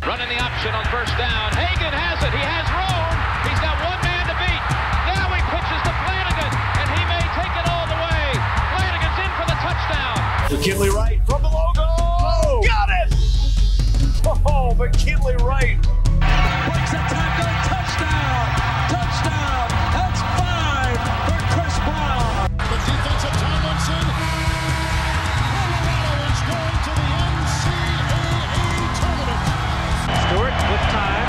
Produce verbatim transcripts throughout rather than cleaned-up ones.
Running the option on first down. Hagan has it. He has room. He's got one man to beat. Now he pitches to Flanagan, and he may take it all the way. Flanagan's in for the touchdown. McKinley Wright from the logo. Oh, got it! Oh, McKinley Wright. Breaks a tackle. Touchdown. Touchdown. That's five for Chris Brown. The defense of Tomlinson. Colorado is going to the N C double A tournament. Stewart with time.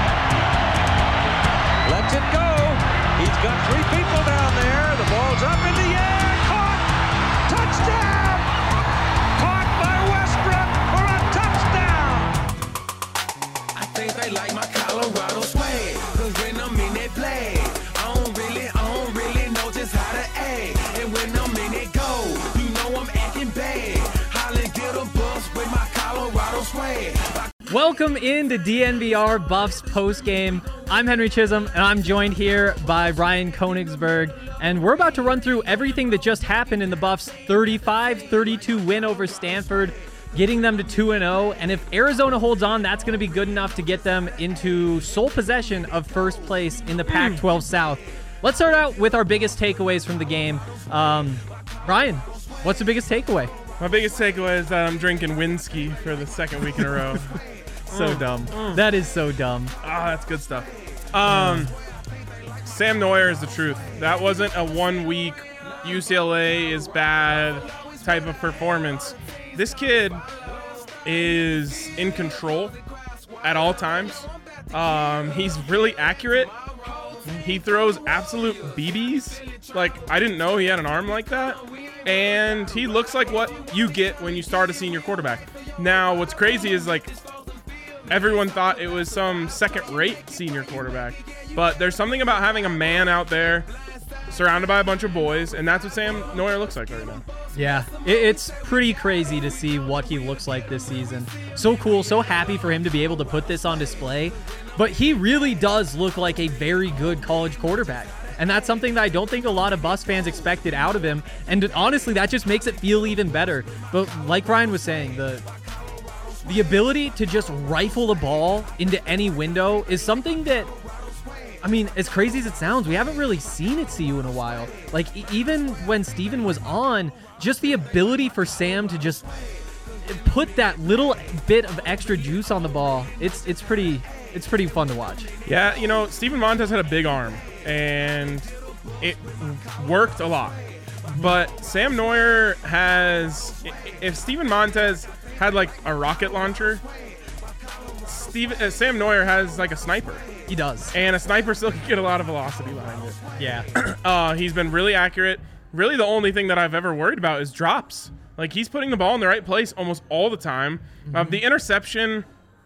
Lets it go. He's got three people down there. The ball's up in the air. Caught. Touchdown. Caught by Westbrook for a touchdown. I think they like my Colorado swag. Cause when I'm in that play, I don't really, I don't really know just how to act. And when I'm in it go, you know I'm acting bad. Holland get a bus with my Colorado swag. Welcome into D N V R Buffs postgame. I'm Henry Chisholm, and I'm joined here by Ryan Koenigsberg, and we're about to run through everything that just happened in the Buffs' thirty-five thirty-two win over Stanford, getting them to two and oh, and if Arizona holds on, that's going to be good enough to get them into sole possession of first place in the Pac twelve South. Let's start out with our biggest takeaways from the game. Um, Ryan, what's the biggest takeaway? My biggest takeaway is that I'm drinking Winsky for the second week in a row. So mm. dumb. Mm. That is so dumb. Ah, that's good stuff. Um, Sam Noyer is the truth. That wasn't a one-week U C L A is bad type of performance. This kid is in control at all times. Um, he's really accurate. He throws absolute B Bs. Like, I didn't know he had an arm like that. And he looks like what you get when you start a senior quarterback. Now, what's crazy is, like, everyone thought it was some second-rate senior quarterback. But there's something about having a man out there surrounded by a bunch of boys, and that's what Sam Noyer looks like right now. Yeah, it's pretty crazy to see what he looks like this season. So cool, so happy for him to be able to put this on display. But he really does look like a very good college quarterback. And that's something that I don't think a lot of Buffs fans expected out of him. And honestly, that just makes it feel even better. But like Ryan was saying, the the ability to just rifle the ball into any window is something that, I mean, as crazy as it sounds, we haven't really seen at C U in a while. Like, even when Steven was on, just the ability for Sam to just put that little bit of extra juice on the ball, it's it's pretty it's pretty fun to watch. Yeah, you know, Steven Montez had a big arm, and it worked a lot. But Sam Noyer has, if Steven Montez had like a rocket launcher, Steve, uh, Sam Noyer has like a sniper. He does. And a sniper still can get a lot of velocity behind it. Yeah. uh, he's been really accurate. Really the only thing that I've ever worried about is drops. Like, he's putting the ball in the right place almost all the time. Mm-hmm. Um, the interception,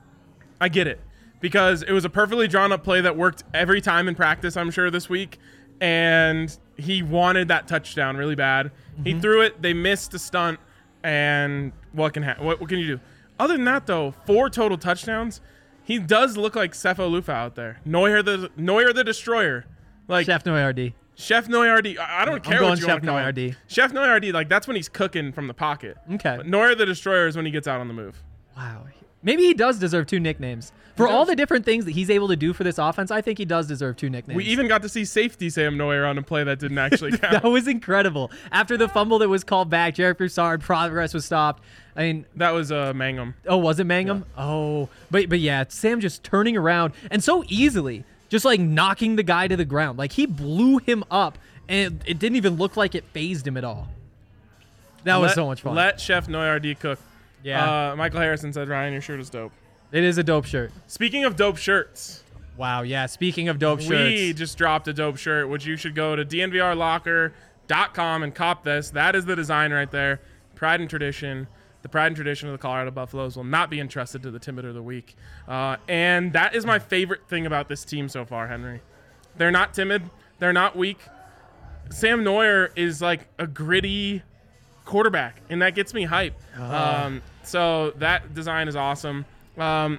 I get it. Because it was a perfectly drawn up play that worked every time in practice, I'm sure, this week. And he wanted that touchdown really bad. Mm-hmm. He threw it. They missed the stunt. And what can ha- what, what can you do? Other than that, though, four total touchdowns. He does look like Sefo Lufa out there. Noyer the Noyer the Destroyer. Like Chef Noyardi. Chef Noyardi. I don't I'm care going what you Chef want to call him. Noyardi. Chef Noyardi, like, that's when he's cooking from the pocket. Okay. But Noyer the Destroyer is when he gets out on the move. Wow. Maybe he does deserve two nicknames. For all the different things that he's able to do for this offense, I think he does deserve two nicknames. We even got to see safety Sam Noyer on a play that didn't actually count. That was incredible. After the fumble that was called back, Jarek Broussard, progress was stopped. I mean, that was uh, Mangum. Oh, was it Mangum? Yeah. Oh, but but yeah, Sam just turning around and so easily, just like knocking the guy to the ground. Like, he blew him up, and it, it didn't even look like it phased him at all. That let, was so much fun. Let Chef Noyardi cook. Yeah. Uh, Michael Harrison said, Ryan, your shirt is dope. It is a dope shirt. Speaking of dope shirts. Wow, yeah. Speaking of dope we shirts. We just dropped a dope shirt, which you should go to D N V R locker dot com and cop this. That is the design right there. Pride and tradition. The pride and tradition of the Colorado Buffaloes will not be entrusted to the Timid of the Week. Uh, and that is my favorite thing about this team so far, Henry. They're not timid. They're not weak. Sam Noyer is like a gritty quarterback, and that gets me hype. Uh-huh. Um, so that design is awesome. Um,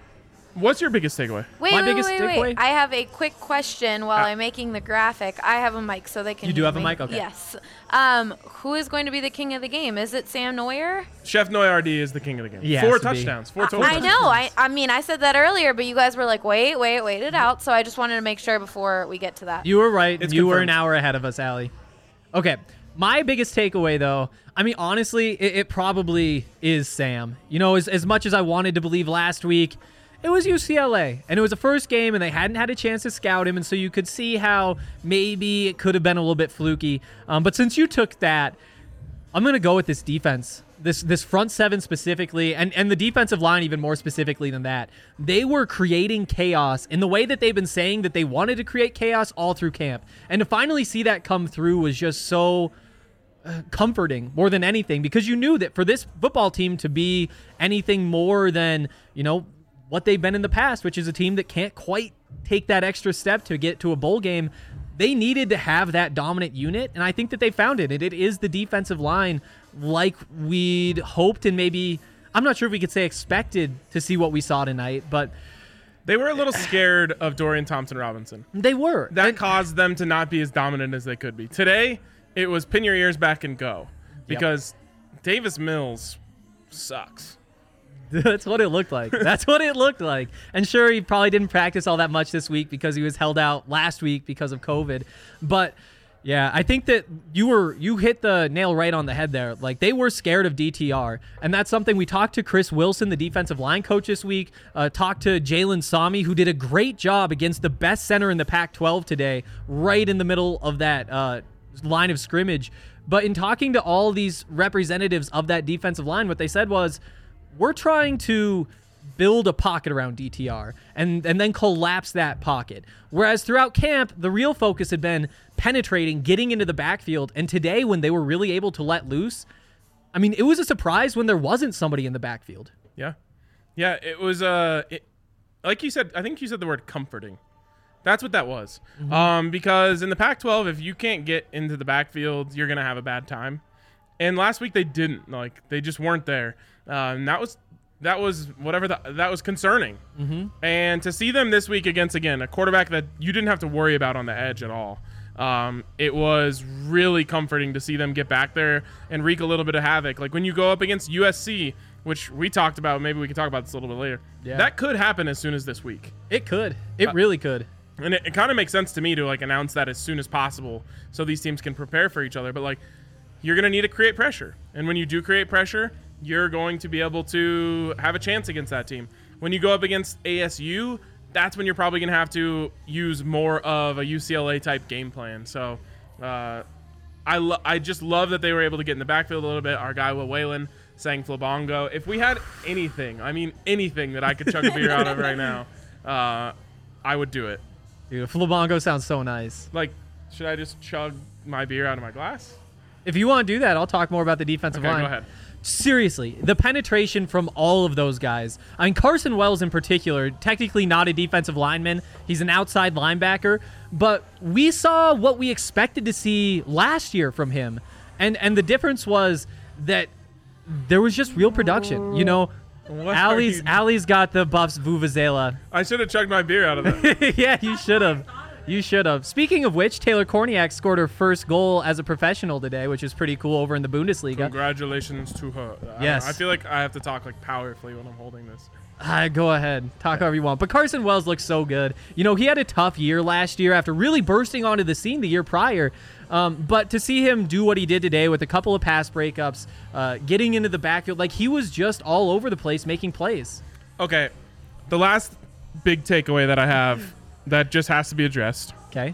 What's your biggest takeaway? Wait, My wait, biggest wait, takeaway? wait. I have a quick question while Ah. I'm making the graphic. I have a mic so they can You do hear have a me. mic? Okay. Yes. Um, who is going to be the king of the game? Is it Sam Neuer? Chef Noyardi is the king of the game. He has Four to be. touchdowns. Four I, total I touchdowns. know. I, I mean, I said that earlier, but you guys were like, wait, wait, wait it out. So I just wanted to make sure before we get to that. You were right. It's you were an confirmed. hour ahead of us, Allie. Okay. My biggest takeaway, though, I mean, honestly, it, it probably is Sam. You know, as, as much as I wanted to believe last week, it was U C L A, and it was the first game, and they hadn't had a chance to scout him, and so you could see how maybe it could have been a little bit fluky. Um, but since you took that, I'm going to go with this defense, this this front seven specifically, and, and the defensive line even more specifically than that. They were creating chaos in the way that they've been saying that they wanted to create chaos all through camp. And to finally see that come through was just so uh, comforting more than anything, because you knew that for this football team to be anything more than, you know, what they've been in the past, which is a team that can't quite take that extra step to get to a bowl game, they needed to have that dominant unit, and I think that they found it. And it is the defensive line like we'd hoped, and maybe, I'm not sure if we could say expected to see what we saw tonight, but They were a little scared of Dorian Thompson-Robinson. they were. That And- caused them to not be as dominant as they could be. Today, it was pin your ears back and go, because Davis Mills sucks. That's what it looked like. That's what it looked like. And sure, he probably didn't practice all that much this week because he was held out last week because of COVID. But yeah, I think that you were you hit the nail right on the head there. Like, they were scared of D T R, and that's something we talked to Chris Wilson, the defensive line coach this week. Uh, talked to Jalen Sami, who did a great job against the best center in the Pac twelve today, right in the middle of that uh, line of scrimmage. But in talking to all these representatives of that defensive line, what they said was, we're trying to build a pocket around D T R and, and then collapse that pocket. Whereas throughout camp, the real focus had been penetrating, getting into the backfield. And today, when they were really able to let loose, I mean, it was a surprise when there wasn't somebody in the backfield. Yeah. Yeah, it was, uh, it, like you said, I think you said the word comforting. That's what that was. Mm-hmm. Um, because in the Pac twelve, if you can't get into the backfield, you're going to have a bad time. And last week they didn't. Like, they just weren't there. Uh, and that was that was whatever the, that was concerning. Mm-hmm. And to see them this week against, again, a quarterback that you didn't have to worry about on the edge at all, um, it was really comforting to see them get back there and wreak a little bit of havoc. Like when you go up against U S C, which we talked about, maybe we can talk about this a little bit later. Yeah. That could happen as soon as this week. It could. It Uh, really could. And it, it kind of makes sense to me to like announce that as soon as possible so these teams can prepare for each other. But like, you're going to need to create pressure. And when you do create pressure, you're going to be able to have a chance against that team. When you go up against A S U, that's when you're probably going to have to use more of a U C L A type game plan. So uh, I, lo- I just love that they were able to get in the backfield a little bit. Our guy Will Whalen sang Flabongo. If we had anything, I mean anything that I could chug a beer out of right now, uh, I would do it. Dude, Flabongo sounds so nice. Like, should I just chug my beer out of my glass? If you want to do that, I'll talk more about the defensive Okay, line. go ahead. Seriously, the penetration from all of those guys. I mean, Carson Wells in particular, technically not a defensive lineman. He's an outside linebacker. But we saw what we expected to see last year from him. And and the difference was that there was just real production. You know, What Allie's, are you- Allie's got the Buffs Vuvuzela. I should have chugged my beer out of that. Yeah, you should have. You should have. Speaking of which, Taylor Korniak scored her first goal as a professional today, which is pretty cool over in the Bundesliga. Congratulations to her. I- Yes. I, feel like I have to talk like powerfully when I'm holding this. Uh, go ahead. Talk however you want. But Carson Wells looks so good. You know, he had a tough year last year after really bursting onto the scene the year prior. Um, but to see him do what he did today with a couple of pass breakups, uh, getting into the backfield, like he was just all over the place making plays. Okay. The last big takeaway that I have that just has to be addressed Okay.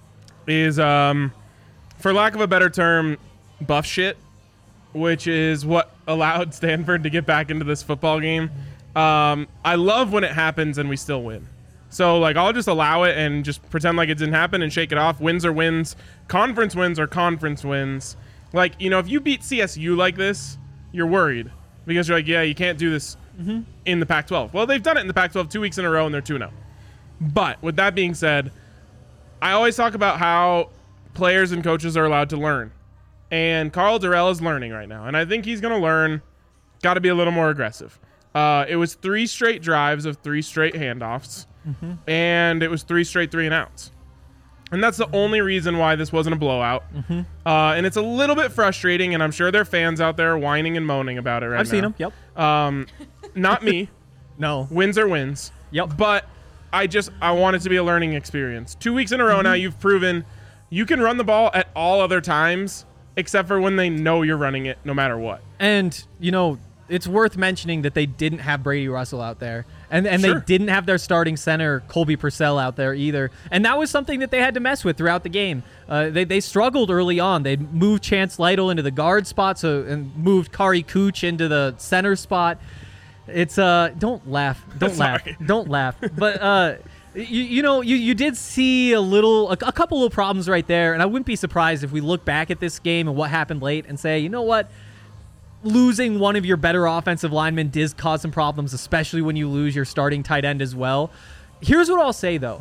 is, um, for lack of a better term, buff shit, which is what allowed Stanford to get back into this football game. Um, I love when it happens and we still win. So, like, I'll just allow it and just pretend like it didn't happen and shake it off. Wins are wins. Conference wins are conference wins. Like, you know, if you beat C S U like this, you're worried. Because you're like, yeah, you can't do this mm-hmm. in the Pac twelve. Well, they've done it in the Pac twelve two weeks in a row, and they're two and oh. But, with that being said, I always talk about how players and coaches are allowed to learn. And Karl Dorrell is learning right now. And I think he's going to learn. Got to be a little more aggressive. Uh, it was three straight drives of three straight handoffs, mm-hmm. and it was three straight three and outs. And that's the only reason why this wasn't a blowout. Mm-hmm. Uh, and it's a little bit frustrating, and I'm sure there are fans out there whining and moaning about it right I've now. seen them, yep. Um, not me. No. Wins are wins. Yep. But I just I want it to be a learning experience. Two weeks in a row mm-hmm. now, you've proven you can run the ball at all other times, except for when they know you're running it no matter what. And, you know, it's worth mentioning that they didn't have Brady Russell out there. And and Sure. they didn't have their starting center, Colby Purcell, out there either. And that was something that they had to mess with throughout the game. Uh, they, they struggled early on. They moved Chance Lytle into the guard spot so and moved Kari Cooch into the center spot. It's uh don't laugh. Don't laugh. Don't laugh. But uh you, you know, you, you did see a little a, a couple of problems right there, and I wouldn't be surprised if we look back at this game and what happened late and say, you know what? Losing one of your better offensive linemen does cause some problems, especially when you lose your starting tight end as well. Here's what I'll say, though.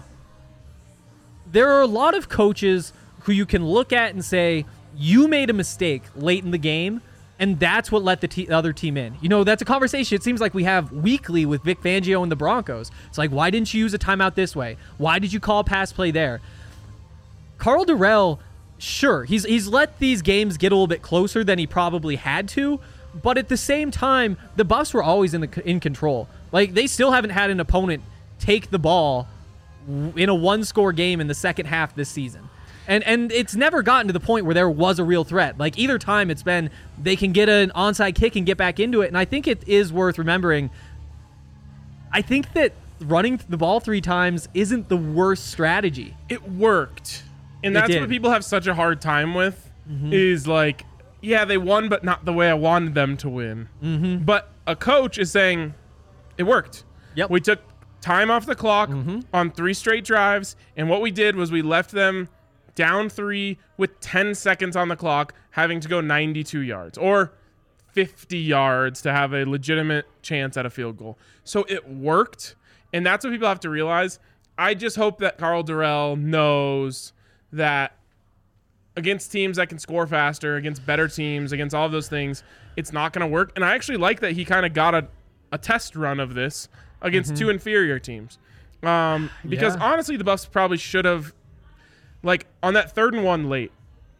There are a lot of coaches who you can look at and say, you made a mistake late in the game, and that's what let the te- other team in. You know, that's a conversation it seems like we have weekly with Vic Fangio and the Broncos. It's like, why didn't you use a timeout this way? Why did you call a pass play there? Karl Dorrell, sure, he's he's let these games get a little bit closer than he probably had to, but at the same time, the Buffs were always in the in control. Like, they still haven't had an opponent take the ball in a one-score game in the second half this season. And and it's never gotten to the point where there was a real threat. Like, either time it's been they can get an onside kick and get back into it. And I think it is worth remembering, I think that running the ball three times isn't the worst strategy. It worked. And It that's did. what people have such a hard time with Mm-hmm. is like, yeah, they won, but not the way I wanted them to win. Mm-hmm. But a coach is saying, it worked. Yep. We took time off the clock Mm-hmm. on three straight drives, and what we did was we left them down three with ten seconds on the clock, having to go ninety-two yards or fifty yards to have a legitimate chance at a field goal. So it worked, and that's what people have to realize. I just hope that Karl Dorrell knows that against teams that can score faster, against better teams, against all of those things, it's not going to work. And I actually like that he kind of got a, a test run of this against Mm-hmm. two inferior teams. Um, because Yeah. honestly, the Buffs probably should have, like, on that third and one late,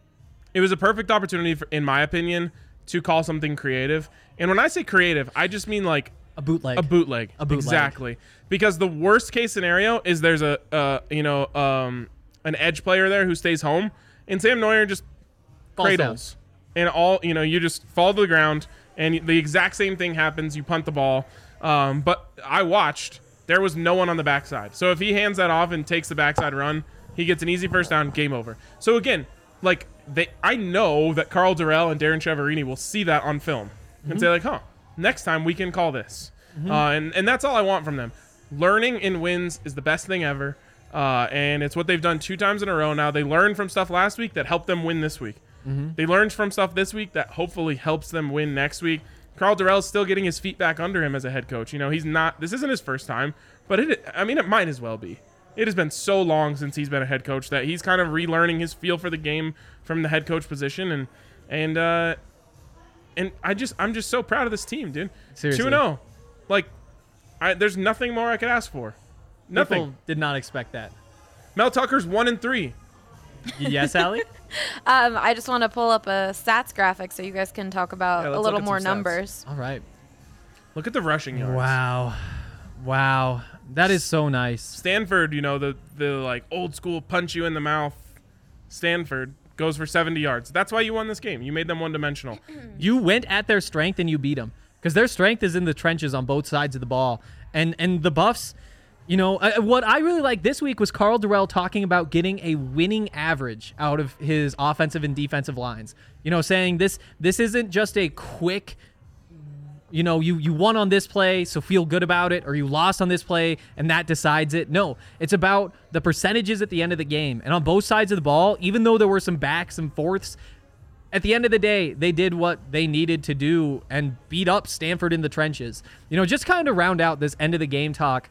it was a perfect opportunity, for, in my opinion, to call something creative. And when I say creative, I just mean like A bootleg. a bootleg. A bootleg. Exactly. Because the worst case scenario is there's a, uh, you know, um, an edge player there who stays home, and Sam Neuer just Falls cradles. And all, you know, you just fall to the ground, and the exact same thing happens. You punt the ball. Um, but I watched. There was no one on the backside. So if he hands that off and takes the backside run, he gets an easy first down, game over. So again, like, they, I know that Karl Dorrell and Darren Chiaverini will see that on film Mm-hmm. and say, like, huh, next time we can call this. Uh, and, and that's all I want from them. Learning in wins is the best thing ever. Uh, and it's what they've done two times in a row now. They learned from stuff last week that helped them win this week. Mm-hmm. They learned from stuff this week that hopefully helps them win next week. Karl Dorrell's still getting his feet back under him as a head coach. You know, he's not, this isn't his first time, but it, I mean, it might as well be. It has been so long since he's been a head coach that he's kind of relearning his feel for the game from the head coach position. And, and, uh, and I just, I'm just so proud of this team, dude. Seriously. two and oh. Like, I, there's nothing more I could ask for. Nothing. People did not expect that. Mel Tucker's one and three. Yes, Allie? Um, I just want to pull up a stats graphic so you guys can talk about Yeah, let's a look little at more some stats. numbers. All right. Look at the rushing yards. Wow. Wow. That is so nice. Stanford, you know, the the like old school punch you in the mouth. Stanford goes for seventy yards. That's why you won this game. You made them one dimensional. You went at their strength and you beat them because their strength is in the trenches on both sides of the ball. And and the Buffs, you know, uh, what I really liked this week was Karl Dorrell talking about getting a winning average out of his offensive and defensive lines. You know, saying this this isn't just a quick, you know, you, you won on this play, so feel good about it, or you lost on this play, and that decides it. No, it's about the percentages at the end of the game. And on both sides of the ball, even though there were some backs and forths, at the end of the day, they did what they needed to do and beat up Stanford in the trenches. You know, just kind of round out this end of the game talk,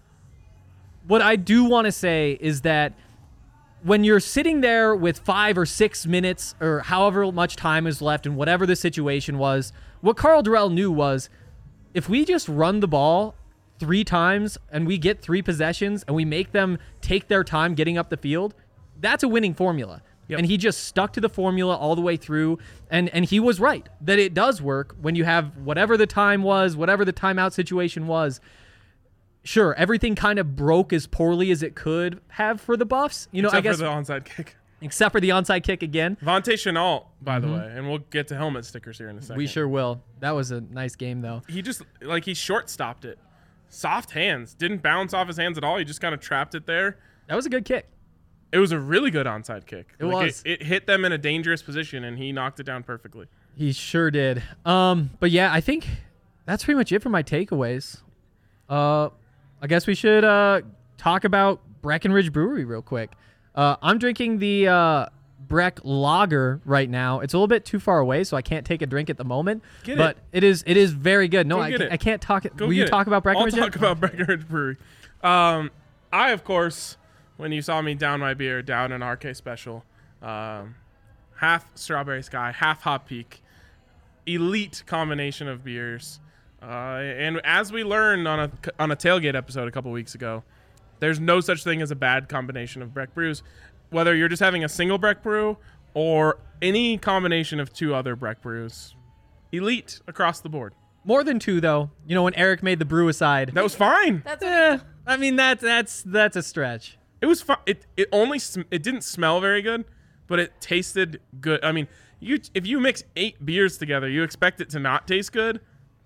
what I do want to say is that when you're sitting there with five or six minutes or however much time is left and whatever the situation was, what Karl Dorrell knew was if we just run the ball three times and we get three possessions and we make them take their time getting up the field, that's a winning formula. Yep. And he just stuck to the formula all the way through. And, and he was right that it does work when you have whatever the time was, whatever the timeout situation was. Sure, everything kind of broke as poorly as it could have for the Buffs. You know, Except I guess for the onside kick. Except for the onside kick again. Vontae Chenault, by Mm-hmm. the way, and we'll get to helmet stickers here in a second. We sure will. That was a nice game, though. He just, like, he short-stopped it. Soft hands. Didn't bounce off his hands at all. He just kind of trapped it there. That was a good kick. It was a really good onside kick. It like was. It, it hit them in a dangerous position, and he knocked it down perfectly. He sure did. Um, but yeah, I think that's pretty much it for my takeaways. Uh, I guess we should uh, talk about Breckenridge Brewery real quick. Uh, I'm drinking the uh, Breck Lager right now. It's a little bit too far away, so I can't take a drink at the moment. Get but it. it is it is very good. No, Go I, get ca- it. I can't talk it. Go Will you get talk it. about Breckenridge? I'll talk about Breckenridge Brewery. Um, I, of course, when you saw me down my beer, down an R K Special, um, half Strawberry Sky, half Hop Peak, elite combination of beers. Uh, and as we learned on a on a tailgate episode a couple weeks ago, there's no such thing as a bad combination of Breck brews. Whether you're just having a single Breck brew or any combination of two other Breck brews, elite across the board. More than two, though. You know, when Eric made the brew aside. That was fine. That's Eh, I mean, that's that's that's a stretch. It was fun. It it only sm- it didn't smell very good, but it tasted good. I mean, you if you mix eight beers together, you expect it to not taste good.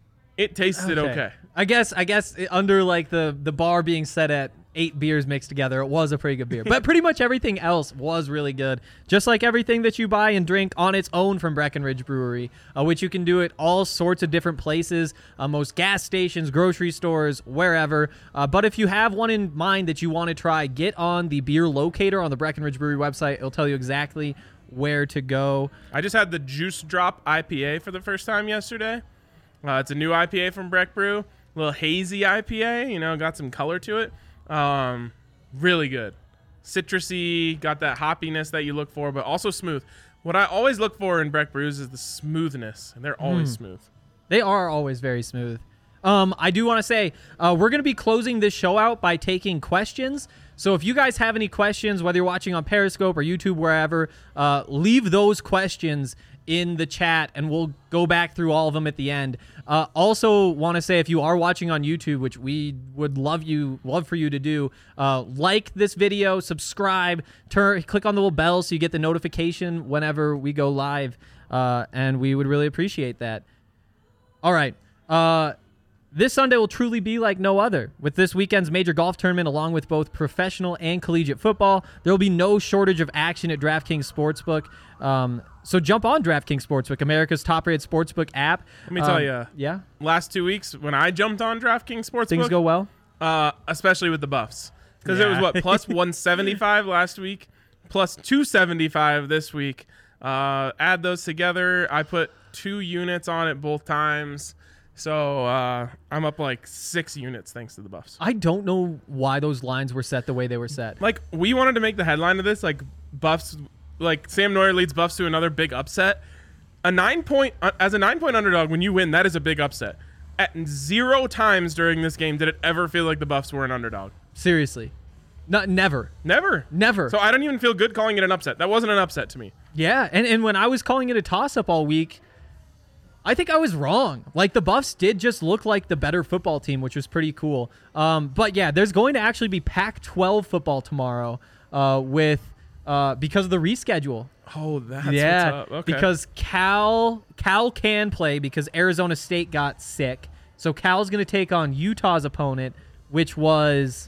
It tasted okay. I guess I guess it- under like the the bar being set at eight beers mixed together, it was a pretty good beer. But pretty much everything else was really good. Just like everything that you buy and drink on its own from Breckenridge Brewery, uh, which you can do at all sorts of different places, uh, most gas stations, grocery stores, wherever. Uh, but if you have one in mind that you want to try, get on the beer locator on the Breckenridge Brewery website. It'll tell you exactly where to go. I just had the Juice Drop I P A for the first time yesterday. Uh, it's a new I P A from Breck Brew, a little hazy I P A. You know, got some color to it. Um, really good, citrusy, got that hoppiness that you look for, but also smooth. What I always look for in Breck brews is the smoothness, and they're always Mm. smooth. They are always very smooth. Um, I do want to say uh, we're going to be closing this show out by taking questions. So if you guys have any questions, whether you're watching on Periscope or YouTube, wherever, uh, leave those questions in the chat, and we'll go back through all of them at the end. Uh, also, want to say if you are watching on YouTube, which we would love you, love for you to do, uh, like this video, subscribe, turn, click on the little bell so you get the notification whenever we go live, uh, and we would really appreciate that. All right. Uh, This Sunday will truly be like no other. With this weekend's major golf tournament, along with both professional and collegiate football, there will be no shortage of action at DraftKings Sportsbook. Um, so jump on DraftKings Sportsbook, America's top-rated sportsbook app. Let me tell Um, you, Yeah? last two weeks when I jumped on DraftKings Sportsbook, Things go well? uh, especially with the Buffs, because it was Yeah. what plus one seventy-five last week, plus two seventy-five this week. Uh, add those together, I put two units on it both times. So uh, I'm up like six units thanks to the Buffs. I don't know why those lines were set the way they were set. Like, we wanted to make the headline of this, like, Buffs, like, Sam Neuer leads Buffs to another big upset. A nine point, uh, as a nine point underdog, when you win, that is a big upset. At zero times during this game did it ever feel like the Buffs were an underdog. Seriously. Not never. Never. Never. So I don't even feel good calling it an upset. That wasn't an upset to me. Yeah, and, and when I was calling it a toss-up all week, I think I was wrong. Like, the Buffs did just look like the better football team, which was pretty cool. Um, but, yeah, there's going to actually be Pac twelve football tomorrow uh, with uh, because of the reschedule. Oh, that's yeah, what's up. Okay. because Cal Cal can play because Arizona State got sick. So Cal's going to take on Utah's opponent, which was...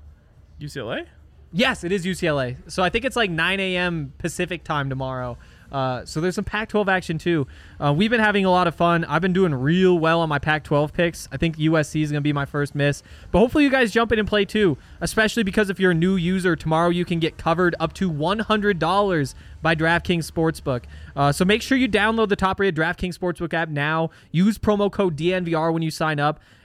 U C L A? Yes, it is U C L A. So I think it's like nine a.m. Pacific time tomorrow. Uh, so there's some Pac twelve action too. Uh, we've been having a lot of fun. I've been doing real well on my Pac twelve picks. I think U S C is going to be my first miss. But hopefully you guys jump in and play too, especially because if you're a new user, tomorrow you can get covered up to one hundred dollars by DraftKings Sportsbook. Uh, so make sure you download the top-rated DraftKings Sportsbook app now. Use promo code D N V R when you sign up.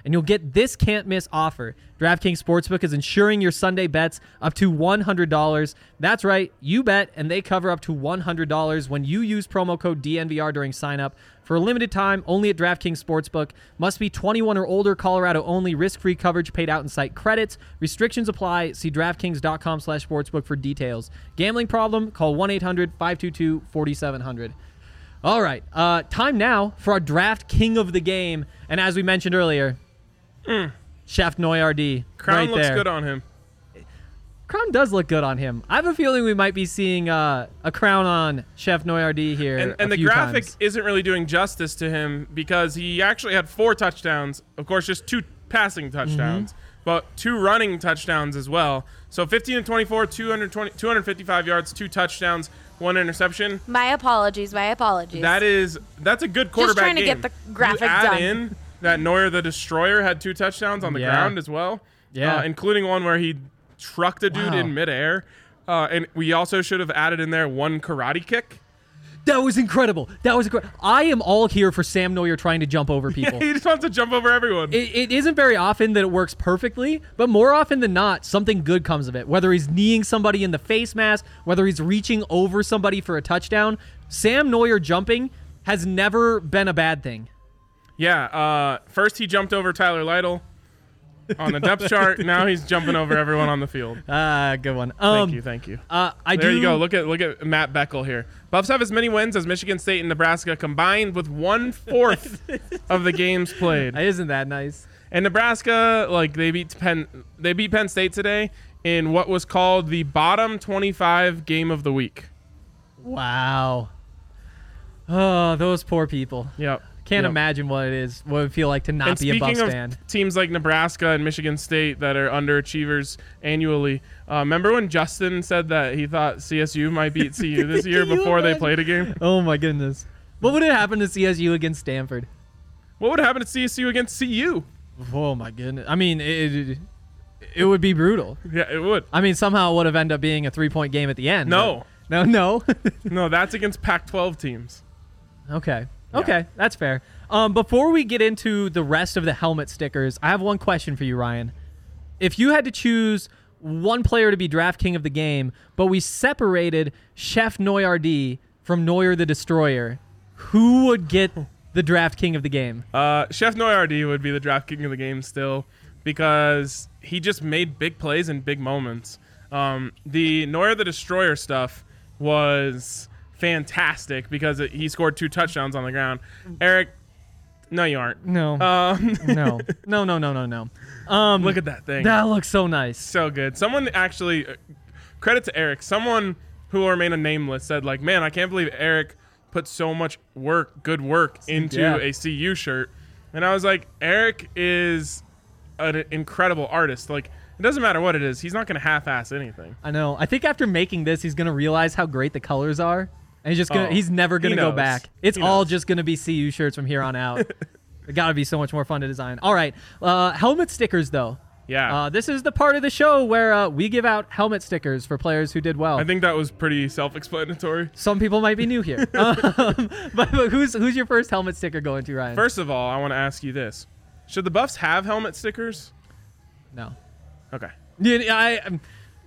and you'll get this can't-miss offer. DraftKings Sportsbook is insuring your Sunday bets up to one hundred dollars. That's right, you bet, and they cover up to one hundred dollars when you use promo code D N V R during sign-up. For a limited time, only at DraftKings Sportsbook. Must be twenty-one or older, Colorado only. Risk-free coverage paid out in site credits. Restrictions apply. See DraftKings.com slash sportsbook for details. Gambling problem? Call one eight hundred five two two four seven zero zero. All right, uh, time now for our draft king of the game. And as we mentioned earlier, mm. Chef Noyardee. Crown right looks there. good on him. Crown does look good on him. I have a feeling we might be seeing uh, a crown on Chef Noyardee here. And, and a the few graphic times. isn't really doing justice to him because he actually had four touchdowns. Of course, just two passing touchdowns, mm-hmm. but two running touchdowns as well. So fifteen and twenty-four, two hundred twenty, two hundred fifty-five yards, two touchdowns, one interception. My apologies. My apologies. That is that's a good quarterback Just trying to game. get the graphic you add done. in that Neuer the Destroyer had two touchdowns on the Yeah. ground as well. Yeah. Uh, including one where he trucked a dude Wow. in midair. Uh, and we also should have added in there one karate kick. That was incredible. That was incredible. I am all here for Sam Neuer trying to jump over people. He just wants to jump over everyone. It, it isn't very often that it works perfectly, but more often than not, something good comes of it. Whether he's kneeing somebody in the face mask, whether he's reaching over somebody for a touchdown, Sam Neuer jumping has never been a bad thing. Yeah, uh, first he jumped over Tyler Lytle on the depth chart. Now he's jumping over everyone on the field. Ah, good one. Um, Thank you, thank you. Uh, I there do, you go. Look at look at Matt Beckel here. Buffs have as many wins as Michigan State and Nebraska combined, with one fourth of the games played. Isn't that nice? And Nebraska, like they beat Penn, they beat Penn State today in what was called the bottom twenty-five game of the week. Wow. Oh, those poor people. Yep. Can't Yep. imagine what it is, what it would feel like to not And be a Buffs speaking of fan. teams like Nebraska and Michigan State that are underachievers annually, uh, remember when Justin said that he thought C S U might beat C U this year Can you before they imagine? played a game? Oh my goodness. What would have happened to C S U against Stanford? What would happen to C S U against C U? Oh my goodness. I mean, it, it, it would be brutal. Yeah, it would. I mean, somehow it would have ended up being a three-point game at the end. No. but- No, no. No, that's against Pac twelve teams. Okay. Okay, that's fair. Um, before we get into the rest of the helmet stickers, I have one question for you, Ryan. If you had to choose one player to be draft king of the game, but we separated Chef Noyardee from Neuer the Destroyer, who would get the draft king of the game? Uh, Chef Noyardee would be the draft king of the game still because he just made big plays in big moments. Um, the Neuer the Destroyer stuff was fantastic because it, he scored two touchdowns on the ground. Eric, no, you aren't. No. Um, no. No, no, no, no, no. Um, look at that thing. That looks so nice. So good. Someone actually, uh, credit to Eric, someone who will remain a nameless said, like, man, I can't believe Eric put so much work, good work, into Yeah. a C U shirt. And I was like, Eric is an incredible artist. Like, it doesn't matter what it is. He's not going to half-ass anything. I know. I think after making this, he's going to realize how great the colors are. And he's just gonna, Oh, he's never going he to go knows. back. It's He all knows. just going to be C U shirts from here on out. It got to be so much more fun to design. All right. Uh, helmet stickers, though. Yeah. Uh, this is the part of the show where uh, we give out helmet stickers for players who did well. I think that was pretty self-explanatory. Some people might be new here. um, but, but who's who's your first helmet sticker going to, Ryan? First of all, I want to ask you this. Should the Buffs have helmet stickers? No. Okay. Yeah, I, um,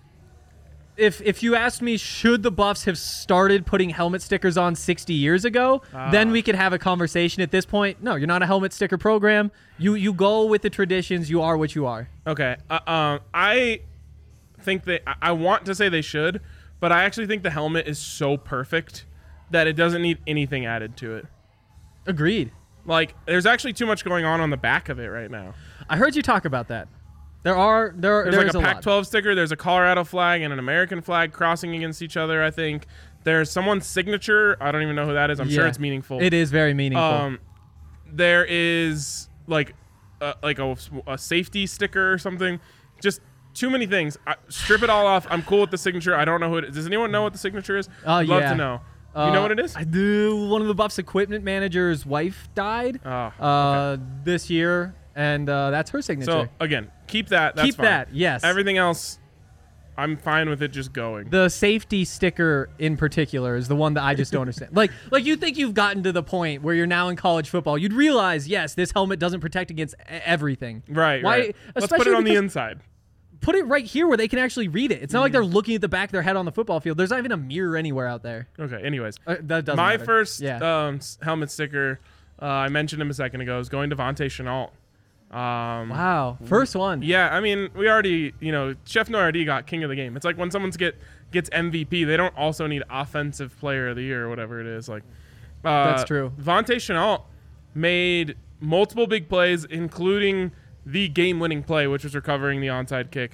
if if you asked me, should the Buffs have started putting helmet stickers on sixty years ago, Ah. then we could have a conversation. At this point, no, you're not a helmet sticker program. You you go with the traditions. You are what you are. Okay. Uh, um, I think they. I- I want to say they should, but I actually think the helmet is so perfect that it doesn't need anything added to it. Agreed. Like, there's actually too much going on on the back of it right now. I heard you talk about that. There are there There's there's like a Pac twelve sticker. There's a Colorado flag and an American flag crossing against each other. I think there's someone's signature. I don't even know who that is. I'm sure Yeah. it's meaningful. It is very meaningful. Um, there is like a, like a, a safety sticker or something. Just too many things. I, strip it all off. I'm cool with the signature. I don't know who it is. Does anyone know what the signature is? Oh, I'd love yeah. to know. Uh, you know what it is? I do. One of the Buffs equipment manager's wife died Oh, uh, this year, and uh, that's her signature. So again, keep that. That's Keep fine. that, yes. Everything else, I'm fine with it just going. The safety sticker in particular is the one that I just don't understand. Like, like you think you've gotten to the point where you're now in college football. You'd realize, yes, this helmet doesn't protect against e- everything. Right, Why? right. Let's put it especially on the because- inside. Put it right here where they can actually read it. It's not like they're looking at the back of their head on the football field. There's not even a mirror anywhere out there. Okay, anyways. Uh, that doesn't My matter. first yeah. um, s- helmet sticker, uh, I mentioned him a second ago, is going to Vontae Chenault. Um, Wow. First one. Yeah, I mean, we already, you know, Chef Noirdi got king of the game. It's like when someone's get gets M V P, they don't also need offensive player of the year or whatever it is. Like, uh, That's true. Vontae Chenault made multiple big plays, including the game-winning play, which was recovering the onside kick.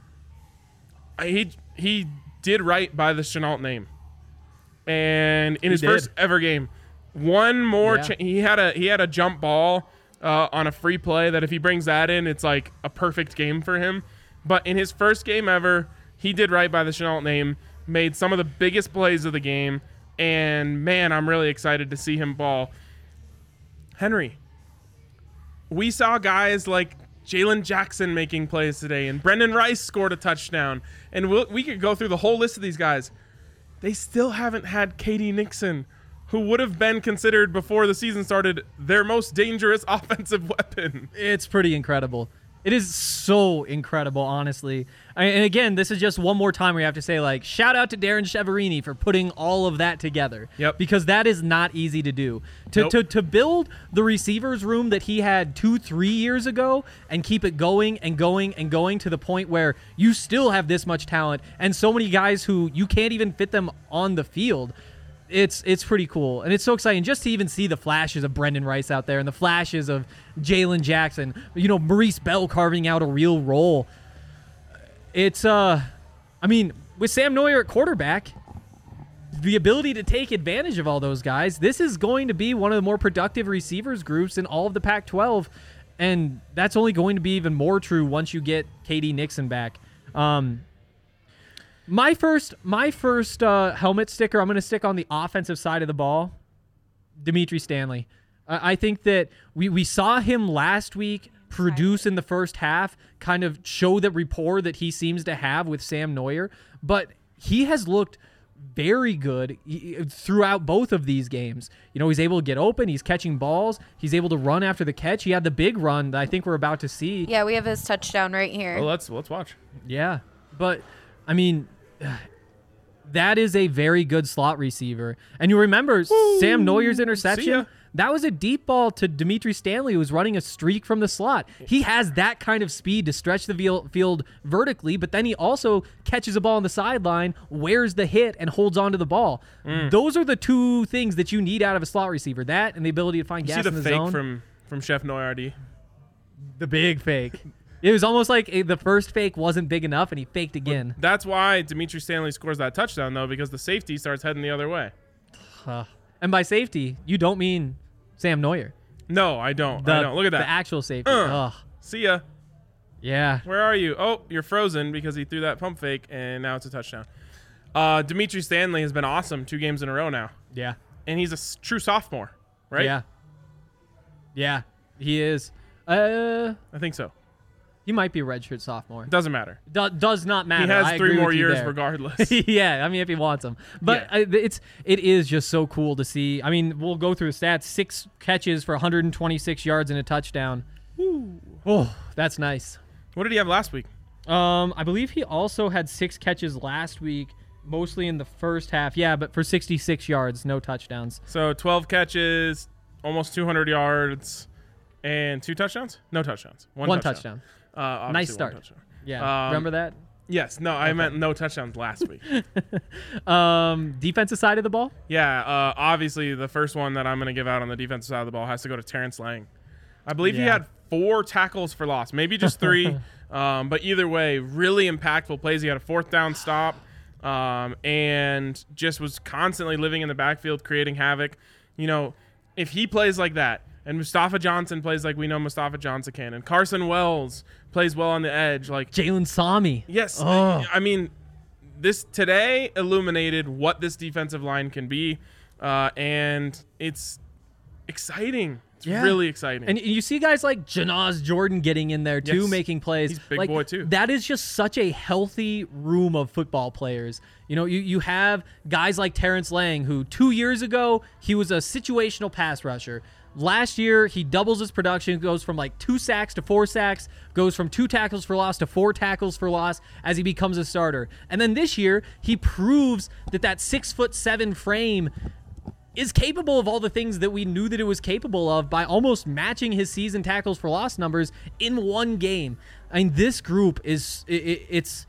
I- He he did right by the Chenault name, and in his did. first ever game, one more Yeah. cha- he had a he had a jump ball uh, on a free play that if he brings that in, it's like a perfect game for him. But in his first game ever, he did right by the Chenault name, made some of the biggest plays of the game, and man, I'm really excited to see him ball. Henry, we saw guys like Jalen Jackson making plays today, and Brendan Rice scored a touchdown. And we'll, we could go through the whole list of these guys. They still haven't had Katie Nixon, who would have been considered before the season started their most dangerous offensive weapon. It's pretty incredible. It is so incredible, honestly. I, and again, this is just one more time where you have to say, like, shout out to Darren Cheverini for putting all of that together. Yep. Because that is not easy to do. To, Nope. to, to build the receivers room that he had two, three years ago and keep it going and going and going to the point where you still have this much talent and so many guys who you can't even fit them on the field. It's it's pretty cool, and it's so exciting just to even see the flashes of Brendan Rice out there and the flashes of Jalen Jackson. You know, Maurice Bell carving out a real role. It's uh, I mean, with Sam Neuer at quarterback, the ability to take advantage of all those guys, this is going to be one of the more productive receivers groups in all of the Pac twelve, and that's only going to be even more true once you get K D Nixon back. Um, My first, my first uh, helmet sticker, I'm going to stick on the offensive side of the ball. Dimitri Stanley. Uh, I think that we, we saw him last week produce in the first half, kind of show the rapport that he seems to have with Sam Neuer, but he has looked very good throughout both of these games. You know, he's able to get open, he's catching balls, he's able to run after the catch. He had the big run that I think we're about to see. Yeah, we have his touchdown right here. Well, let's let's watch. Yeah, but I mean, that is a very good slot receiver. And you remember Sam Neuer's See ya. interception? That was a deep ball to Dimitri Stanley, who was running a streak from the slot. He has that kind of speed to stretch the field- field vertically, but then he also catches a ball on the sideline, wears the hit, and holds onto the ball. Mm. Those are the two things that you need out of a slot receiver, that and the ability to find You gas see in the the fake zone. from from Chef Noirdi. The big fake. It was almost like eh, the first fake wasn't big enough, and he faked again. That's why Dimitri Stanley scores that touchdown, though, because the safety starts heading the other way. Uh, and by safety, you don't mean Sam Neuer. No, I don't. The, I don't. Look at The that. actual safety. Uh. Ugh. See ya. Yeah. Where are you? Oh, you're frozen because he threw that pump fake, and now it's a touchdown. Uh, Dimitri Stanley has been awesome two games in a row now, Yeah. and he's a s- true sophomore, right? Yeah. Yeah, he is. Uh, I think so. he might be a redshirt sophomore. Doesn't matter. Do- does not matter. He has I three agree more with you years there. regardless. Yeah, I mean, if he wants them, but Yeah. uh, it's it is just so cool to see. I mean, we'll go through the stats: six catches for one hundred twenty-six yards and a touchdown. Oh, that's nice. What did he have last week? Um, I believe he also had six catches last week, mostly in the first half. Yeah, but for sixty-six yards, no touchdowns. So twelve catches, almost two hundred yards, and two touchdowns? No touchdowns. One, One touchdown. touchdown. Uh, obviously Nice one start. touchdown. Yeah, Um, remember that? Yes. No, I meant no touchdowns last week. Um, defensive side of the ball. Yeah, uh, obviously the first one that I'm going to give out on the defensive side of the ball has to go to Terrence Lang. I believe he Yeah. had four tackles for loss, maybe just three, um, but either way, really impactful plays. He had a fourth down stop um, and just was constantly living in the backfield, creating havoc. You know, if he plays like that, and Mustafa Johnson plays like we know Mustafa Johnson can, and Carson Wells plays well on the edge, like Jalen Sami. yes, Oh. I mean, this today illuminated what this defensive line can be, uh, and it's exciting. It's Yeah. really exciting. And you see guys like Janaz Jordan getting in there too, Yes. making plays. He's a big like, boy, too. That is just such a healthy room of football players. You know, you, you have guys like Terrence Lang, who two years ago, he was a situational pass rusher. Last year, he doubles his production, goes from like two sacks to four sacks, goes from two tackles for loss to four tackles for loss as he becomes a starter. And then this year, he proves that that six foot seven frame is capable of all the things that we knew that it was capable of by almost matching his season tackles for loss numbers in one game. I mean, this group is, it, it's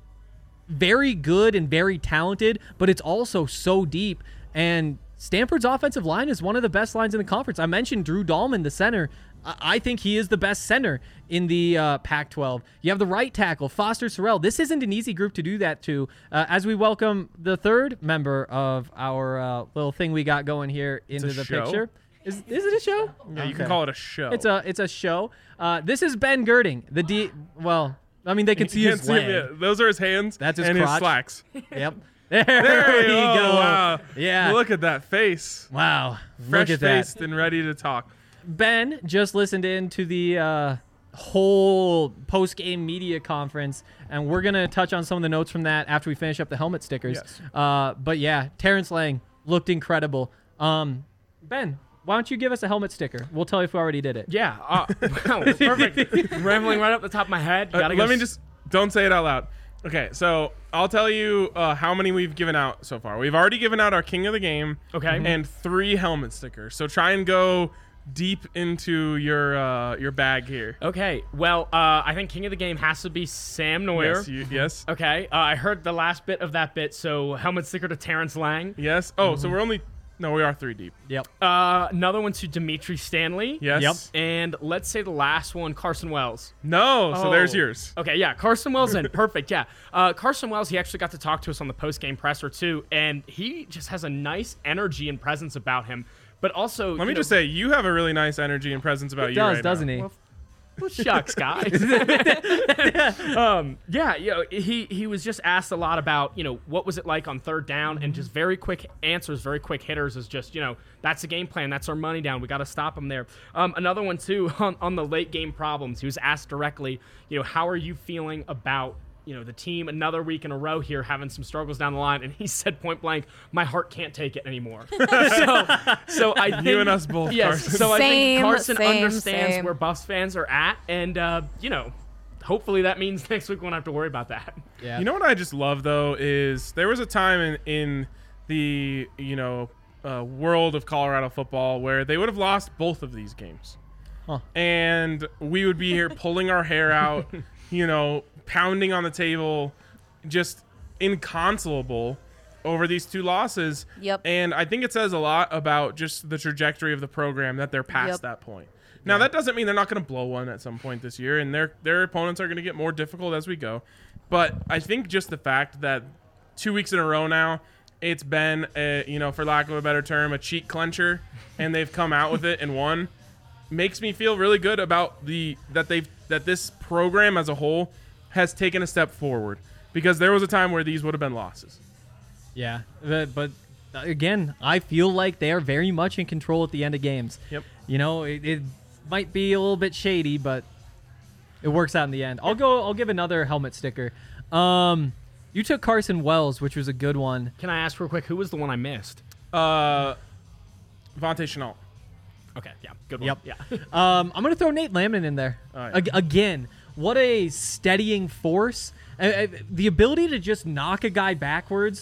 very good and very talented, but it's also so deep. And Stanford's offensive line is one of the best lines in the conference. I mentioned Drew Dahlman, the center. I think he is the best center in the uh, Pac twelve. You have the right tackle, Foster Sorrell. This isn't an easy group to do that to. Uh, as we welcome the third member of our uh, little thing we got going here into a the show? picture. Is is it a show? yeah, you Okay. can call it a show. It's a it's a show. Uh, this is Ben Girding, the D. Well, I mean they can see You his can't see him leg. yet. Those are his hands. That's his and crotch. his slacks. Yep. There, There you oh, go. Wow. Yeah. Look at that face. Wow. Fresh Look at that. faced and ready to talk. Ben just listened in to the uh, whole post-game media conference, and we're going to touch on some of the notes from that after we finish up the helmet stickers. Yes. Uh, but yeah, Terrence Lang looked incredible. Um, Ben, why don't you give us a helmet sticker? We'll tell you if we already did it. Yeah. Uh, wow, perfect. Rambling right up the top of my head. Uh, Gotta let go me s- just don't say it out loud. Okay, so I'll tell you uh, how many we've given out so far. We've already given out our King of the Game. Okay. And three helmet stickers. So try and go deep into your uh, your bag here. Okay. Well, uh, I think King of the Game has to be Sam Neuer. Yes. You, yes. Okay. Uh, I heard the last bit of that bit, so helmet sticker to Terrence Lang. Yes. Oh, so we're only no, we are three deep. Yep. Uh, another one to Dimitri Stanley. Yes. Yep. And let's say the last one, Carson Wells. No. So there's Oh. yours. Okay, yeah, Carson Wells in. Perfect, yeah. Uh, Carson Wells, he actually got to talk to us on the post-game presser, too, and he just has a nice energy and presence about him. But also, Let me just say, you have a really nice energy and presence about He you does, right doesn't now. he? Well, well, shucks, guys. um, yeah, you know, he he was just asked a lot about, you know, what was it like on third down, and just very quick answers, very quick hitters is just, you know, that's the game plan. That's our money down. We got to stop him there. Um, another one too on, on the late game problems. He was asked directly, you know, how are you feeling about, you know, the team another week in a row here having some struggles down the line, and he said point blank, my heart can't take it anymore. so, so I think, You and us both, Yes. Carson. So I think Same, Carson same, understands same. where Buffs fans are at, and uh, you know, hopefully that means next week we won't have to worry about that. Yeah. You know what I just love though is there was a time in in the you know uh, world of Colorado football where they would have lost both of these games, Huh. and we would be here pulling our hair out, you know, pounding on the table, just inconsolable over these two losses. Yep. And I think it says a lot about just the trajectory of the program that they're past Yep. that point. Now that doesn't mean they're not going to blow one at some point this year, and their their opponents are going to get more difficult as we go. But I think just the fact that two weeks in a row now, it's been a, you know, for lack of a better term, a cheek clencher, and they've come out with it and won, makes me feel really good about the that they've that this program as a whole has taken a step forward, because there was a time where these would have been losses. Yeah, but, but uh, again, I feel like they are very much in control at the end of games. Yep. You know, it, it might be a little bit shady, but it works out in the end. I'll go. I'll give another helmet sticker. Um, you took Carson Wells, which was a good one. Can I ask real quick, who was the one I missed? Uh, Vontae Chenault. Okay, yeah, good one. Yep. Yeah. Um, I'm gonna throw Nate Lamnon in there. All right. Ag- again, what a steadying force. Uh, uh, the ability to just knock a guy backwards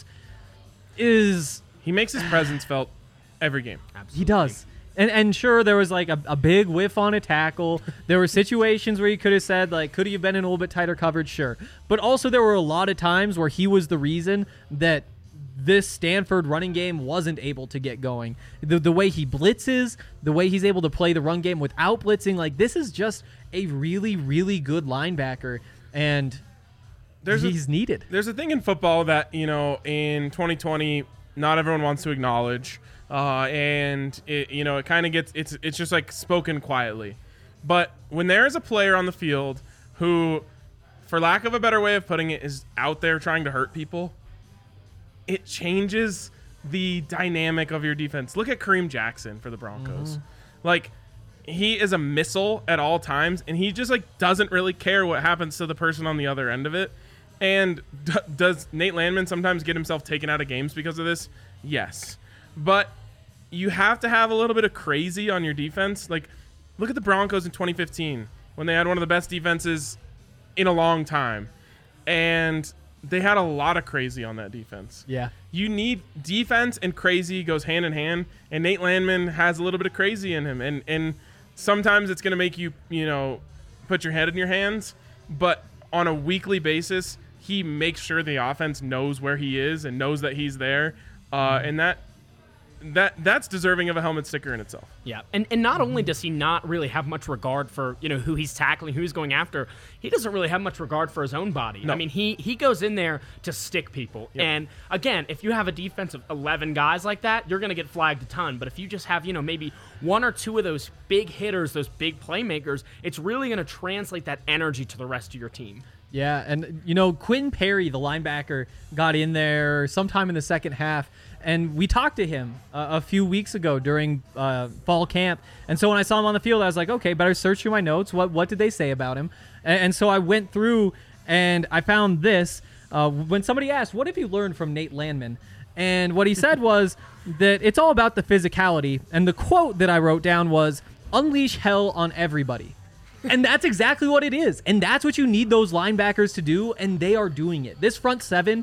is He makes his presence felt every game. he does. And and sure, there was like a, a big whiff on a tackle. There were situations where he could have said, like, could he have been in a little bit tighter coverage? Sure. But also there were a lot of times where he was the reason that this Stanford running game wasn't able to get going. The the way he blitzes, the way he's able to play the run game without blitzing, like this is just a really, really good linebacker. And There's a- he's needed. There's a thing in football that, you know, in twenty twenty, not everyone wants to acknowledge. Uh, and, it, you know, it kind of gets, it's it's just like spoken quietly. But when there is a player on the field who, for lack of a better way of putting it, is out there trying to hurt people, it changes the dynamic of your defense. Look at Kareem Jackson for the Broncos. Mm-hmm. Like, he is a missile at all times, and he just, like, doesn't really care what happens to the person on the other end of it. And d- does Nate Landman sometimes get himself taken out of games because of this? Yes. But you have to have a little bit of crazy on your defense. Like, look at the Broncos in twenty fifteen when they had one of the best defenses in a long time. And they had a lot of crazy on that defense. Yeah. You need defense, and crazy goes hand in hand. And Nate Landman has a little bit of crazy in him. And and sometimes it's going to make you, you know, put your head in your hands. But on a weekly basis, he makes sure the offense knows where he is and knows that he's there. Uh, and that that that's deserving of a helmet sticker in itself. Yeah, and and not only does he not really have much regard for, you know, who he's tackling, who he's going after, he doesn't really have much regard for his own body. No. I mean, he he goes in there to stick people. Yep. And again, if you have a defense of eleven guys like that, you're going to get flagged a ton. But if you just have, you know, maybe one or two of those big hitters, those big playmakers, it's really going to translate that energy to the rest of your team. Yeah, and, you know, Quinn Perry, the linebacker, got in there sometime in the second half, and we talked to him uh, a few weeks ago during uh, fall camp. And so when I saw him on the field, I was like, okay, better search through my notes. What what did they say about him? And, and so I went through, and I found this. Uh, when somebody asked, what have you learned from Nate Landman? And what he said was that it's all about the physicality. And the quote that I wrote down was, unleash hell on everybody. And that's exactly what it is. And that's what you need those linebackers to do, and they are doing it. This front seven,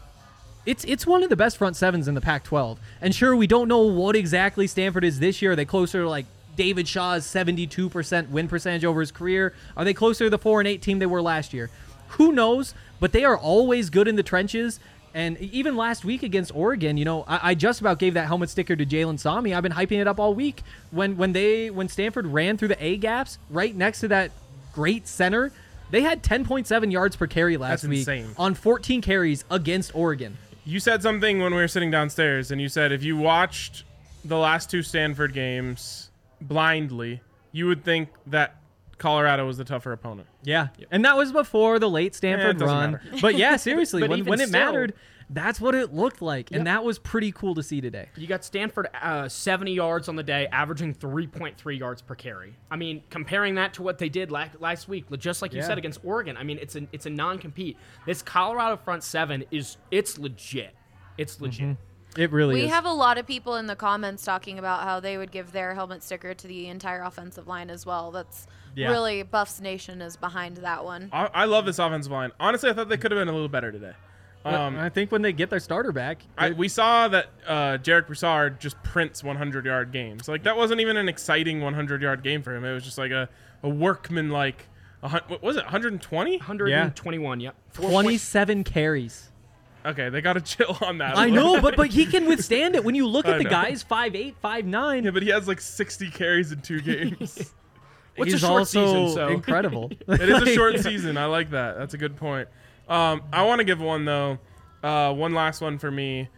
it's it's one of the best front sevens in the Pac twelve. And sure, we don't know what exactly Stanford is this year. Are they closer to like David Shaw's seventy-two percent win percentage over his career? Are they closer to the four and eight team they were last year? Who knows? But they are always good in the trenches. And even last week against Oregon, you know, I, I just about gave that helmet sticker to Jalen Sami. I've been hyping it up all week. When when they when Stanford ran through the A gaps right next to that great center, they had ten point seven yards per carry last That's week insane. on fourteen carries against Oregon. You said something when we were sitting downstairs, and you said if you watched the last two Stanford games blindly, you would think that Colorado was the tougher opponent. Yeah, and that was before the late Eh, Stanford it doesn't run. matter. But yeah, seriously, But when, even when it still- mattered, that's what it looked like. Yep. And that was pretty cool to see today. You got Stanford uh, seventy yards on the day, averaging three point three yards per carry. I mean, comparing that to what they did la- last week, just like you Yeah. said against Oregon. I mean, it's a it's a non-compete. This Colorado front seven is it's legit. It's legit. It really We is. have a lot of people in the comments talking about how they would give their helmet sticker to the entire offensive line as well. That's Yeah. really Buffs Nation is behind that one. I, I love this offensive line. Honestly, I thought they could have been a little better today. Um, I think when they get their starter back, I, we saw that uh, Jarek Broussard just prints hundred-yard games. Like, that wasn't even an exciting hundred-yard game for him. It was just like a, a workman-like, a, hun- what was it, one twenty? one twenty-one, yep. Four point- twenty-seven carries. Okay, they got to chill on that. I know, but but he can withstand it. When you look I at the know. guys, five eight, five nine. Yeah, but he has like sixty carries in two games. What's he's a short also season, so- incredible. It is a short season. I like that. That's a good point. Um, I want to give one, though. Uh, one last one for me.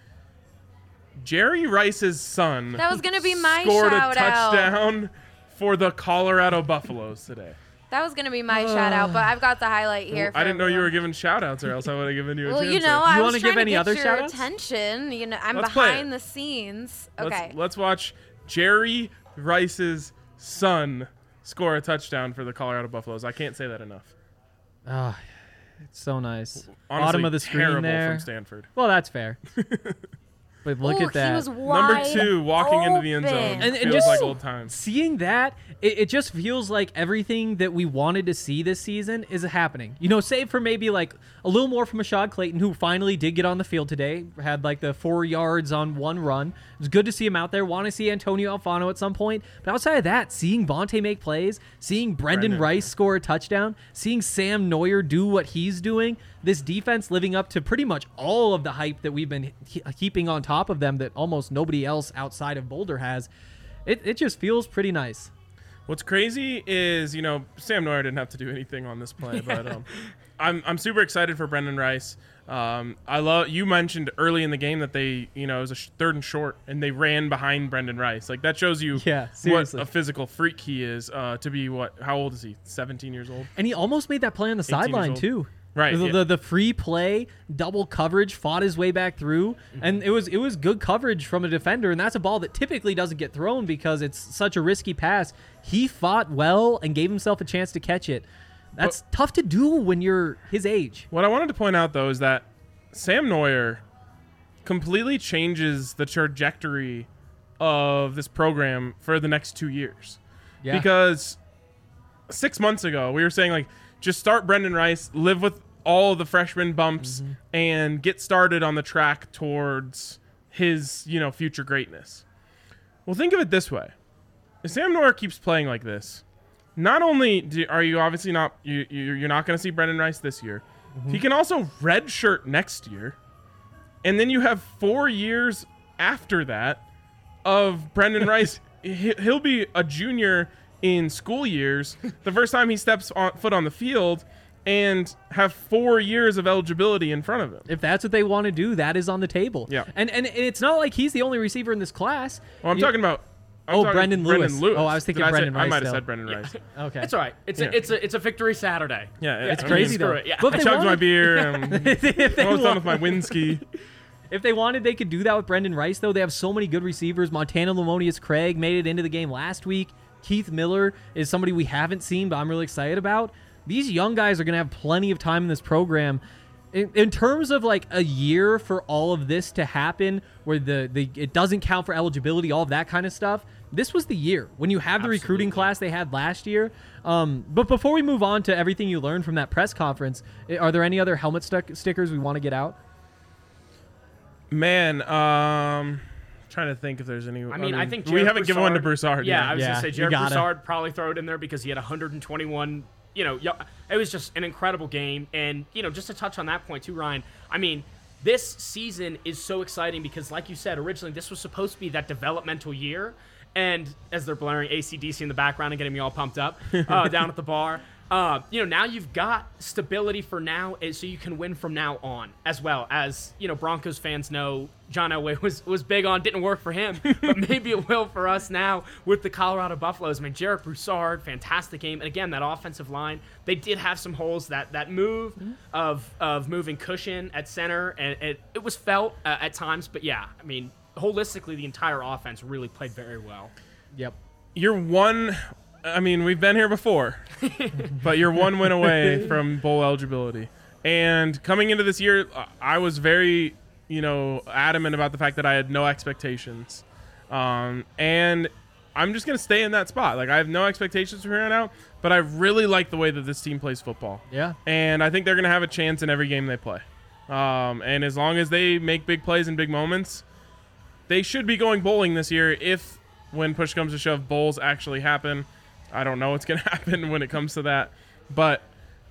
Jerry Rice's son That was gonna be my scored a shout out. touchdown for the Colorado Buffaloes today. That was gonna be my shout out, but I've got the highlight here. I for didn't know you were everyone. giving shout outs, or else I would have given you a Well, chance. you know, to. I You was wanna trying give any to get other your shout-outs? attention. You know, I'm Let's play behind it. the scenes. Let's, Okay. let's watch Jerry Rice's son score a touchdown for the Colorado Buffaloes. I can't say that enough. Ah, it's so nice. Honestly, Bottom of the screen terrible there. from Stanford. Well, that's fair. But look Ooh, at that. He was Number wide two, walking into the end zone. open. And- and feels just- like old times. Seeing that, it, it just feels like everything that we wanted to see this season is happening. You know, save for maybe like a little more from Ashad Clayton, who finally did get on the field today, had like the four yards on one run. It was good to see him out there. Want to see Antonio Alfano at some point. But outside of that, seeing Vontae make plays, seeing Brendan, Brendan. Rice score a touchdown, seeing Sam Neuer do what he's doing, this defense living up to pretty much all of the hype that we've been he- heaping on top of them that almost nobody else outside of Boulder has. It, it just feels pretty nice. What's crazy is, you know, Sam Neuer didn't have to do anything on this play, but um, I'm I'm super excited for Brendan Rice. Um, I love you mentioned early in the game that they, you know, it was a sh- third and short, and they ran behind Brendan Rice. Like, that shows you Yeah, what seriously. a physical freak he is. Uh, to be what? How old is he? seventeen years old. And he almost made that play on the eighteen years sideline, old. too. Right, The, yeah. the the free play, double coverage, fought his way back through, Mm-hmm. and it was it was good coverage from a defender, and that's a ball that typically doesn't get thrown because it's such a risky pass. He fought well and gave himself a chance to catch it. That's tough to do when you're his age. What I wanted to point out, though, is that Sam Neuer completely changes the trajectory of this program for the next two years. Yeah. Because six months ago, we were saying, like, just start Brendan Rice, live with all the freshman bumps, Mm-hmm. and get started on the track towards his, you know, future greatness. Well, think of it this way. If Sam Neuer keeps playing like this, not only do, are you obviously not you, you you're not going to see Brendan Rice this year, Mm-hmm. he can also redshirt next year, and then you have four years after that of Brendan Rice. he, he'll be a junior in school years the first time he steps on, foot on the field, and have four years of eligibility in front of him. If that's what they want to do, that is on the table. Yeah. And and it's not like he's the only receiver in this class. Well, I'm You- talking about. I'm Oh, talking Brendan Lewis. Oh, I was thinking Did I say- Brendan I Rice, might have though. said Brendan Rice. Okay. It's all right. It's Yeah. a it's a it's a victory Saturday. Yeah, it's I mean, crazy, screw though. it, Yeah. But I if they chugged my wanted- beer. I'm if they almost done want- with my Winsky. If they wanted, they could do that with Brendan Rice, though. They have so many good receivers. Montana Lamonius Craig made it into the game last week. Keith Miller is somebody we haven't seen, but I'm really excited about. These young guys are going to have plenty of time in this program. In, in terms of like a year for all of this to happen, where the, the it doesn't count for eligibility, all of that kind of stuff, this was the year when you have the recruiting class they had last year. Um, but before we move on to everything you learned from that press conference, are there any other helmet stuck stickers we want to get out? Man, um, trying to think if there's any. I mean, I think we Jared haven't given one to Broussard- Broussard. Yeah, yet. I was Yeah, gonna say you Jared gotta. Broussard probably throw it in there because he had one hundred twenty-one. You know, yo- it was just an incredible game, and you know, just to touch on that point too, Ryan. I mean, this season is so exciting because, like you said, originally this was supposed to be that developmental year, and as they're blaring A C D C in the background and getting me all pumped up uh, down at the bar. Uh, you know, now you've got stability for now, and so you can win from now on, as well as, you know, Broncos fans know John Elway was, was big on, didn't work for him, but maybe it will for us now with the Colorado Buffaloes. I mean, Jarek Broussard, fantastic game. And again, that offensive line, they did have some holes. That that move of of moving Cushion at center, and it, it was felt uh, at times, but yeah, I mean, holistically, the entire offense really played very well. Yep. You're one. I mean, we've been here before, but you're one win away from bowl eligibility. And coming into this year, uh, I was very, you know, adamant about the fact that I had no expectations. Um, and I'm just going to stay in that spot. Like, I have no expectations from here on out, but I really like the way that this team plays football. Yeah. And I think they're going to have a chance in every game they play. Um, and as long as they make big plays and big moments, they should be going bowling this year if, when push comes to shove, bowls actually happen. I don't know what's going to happen when it comes to that. But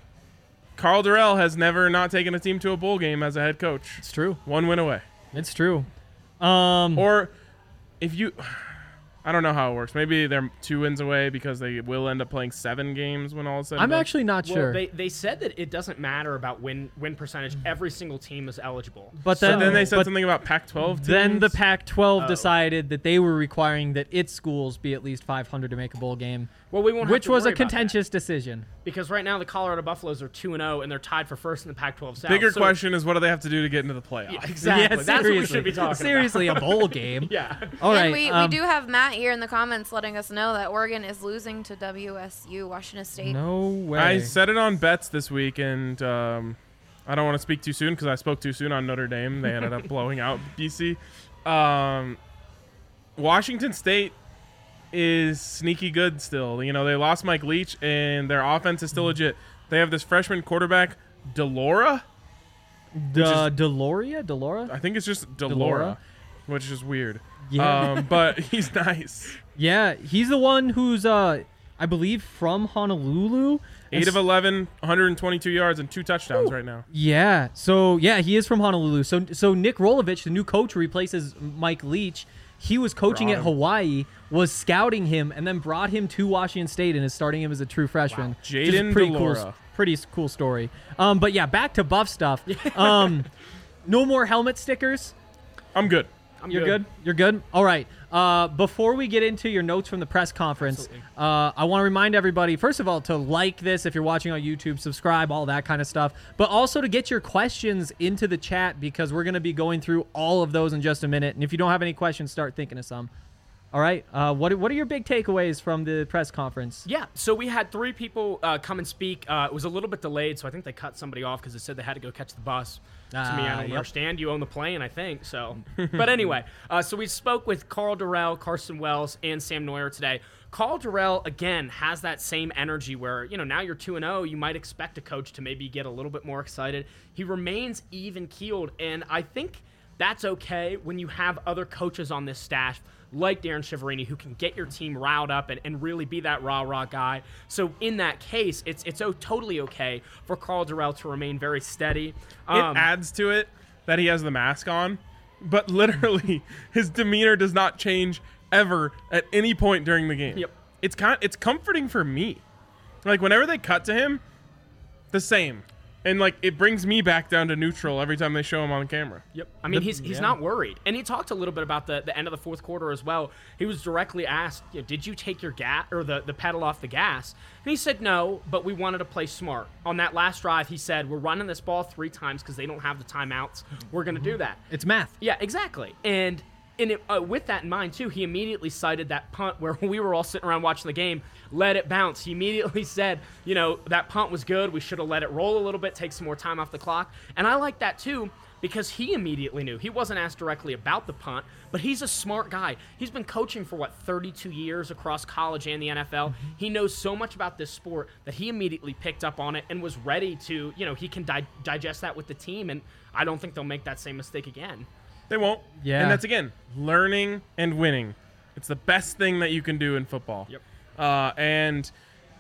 Carl Durrell has never not taken a team to a bowl game as a head coach. It's true. One win away. It's true. Um, Or if you... I don't know how it works. Maybe they're two wins away because they will end up playing seven games when all is said and I'm done. actually not Well, sure. they, they said that it doesn't matter about win win percentage. Every single team is eligible. but So then, then they said but something about Pac twelve teams. then the Pac twelve Oh. decided that they were requiring that its schools be at least five hundred to make a bowl game, Well, we won't have which to was a worry about that. contentious decision. Because right now the Colorado Buffaloes are two and oh, and they're tied for first in the Pac twelve South. Bigger So- question is what do they have to do to get into the playoffs? Yeah, exactly. Yeah, That's what we seriously. should be talking Seriously, about. a bowl game. Yeah. All right. and we, um, we do have Matt here in the comments letting us know that Oregon is losing to W S U, Washington State. No way. I said it on bets this week, and um, I don't want to speak too soon because I spoke too soon on Notre Dame. They ended up blowing out B C. Um, Washington State is sneaky good still. You know, they lost Mike Leach, and their offense is still legit. They have this freshman quarterback, Delora. De- Deloria? Delora? I think it's just Delora, Delora? which is weird. Yeah. Um, but he's nice. Yeah, he's the one who's, uh, I believe, from Honolulu. And eight of s- eleven, one hundred twenty-two yards, and two touchdowns right now. Yeah. So yeah, he is from Honolulu. So so Nick Rolovich, the new coach who replaces Mike Leach, he was coaching Brought at him. Hawaii, was scouting him, and then brought him to Washington State and is starting him as a true freshman. Which is a Jaden pretty cool, Delora. pretty s- cool story. Um, but yeah, back to Buff stuff. Um, no more helmet stickers. I'm good. I'm You're good. You're good. All right. Uh, before we get into your notes from the press conference, uh, I want to remind everybody, first of all, to like this if you're watching on YouTube, subscribe, all that kind of stuff, but also to get your questions into the chat because we're going to be going through all of those in just a minute. And if you don't have any questions, start thinking of some. All right. Uh, what what are your big takeaways from the press conference? Yeah, so we had three people uh, come and speak. Uh, it was a little bit delayed, so I think they cut somebody off because they said they had to go catch the bus. To me, I Ah, don't yep. understand. You own the plane, I think. So, but anyway, uh, so we spoke with Carl Durrell, Carson Wells, and Sam Neuer today. Carl Durrell again has that same energy where you know now you're two and zero. You might expect a coach to maybe get a little bit more excited. He remains even keeled, and I think that's okay when you have other coaches on this staff like Darren Shiverini, who can get your team riled up and, and really be that rah-rah guy. So in that case, it's it's oh, totally okay for Carl Durrell to remain very steady. Um, It adds to it that he has the mask on, but literally his demeanor does not change ever at any point during the game. Yep. It's kind it's comforting for me. Like whenever they cut to him, the same. And like it brings me back down to neutral every time they show him on camera. Yep. I mean, The- he's he's yeah. not worried. And he talked a little bit about the, the end of the fourth quarter as well. He was directly asked, you know, did you take your gas or the, the pedal off the gas? And he said no, but we wanted to play smart. On that last drive, he said, we're running this ball three times because they don't have the timeouts. We're going to do that. It's math. Yeah, exactly. And and it, uh, with that in mind, too, he immediately cited that punt where we were all sitting around watching the game, let it bounce. He immediately said, you know, that punt was good. We should have let it roll a little bit, take some more time off the clock. And I like that, too, because he immediately knew. He wasn't asked directly about the punt, but he's a smart guy. He's been coaching for, what, thirty-two years across college and the N F L. He knows so much about this sport that he immediately picked up on it and was ready to, you know, he can di- digest that with the team, and I don't think they'll make that same mistake again. They won't. Yeah. And that's, again, learning and winning. It's the best thing that you can do in football. Yep. Uh, and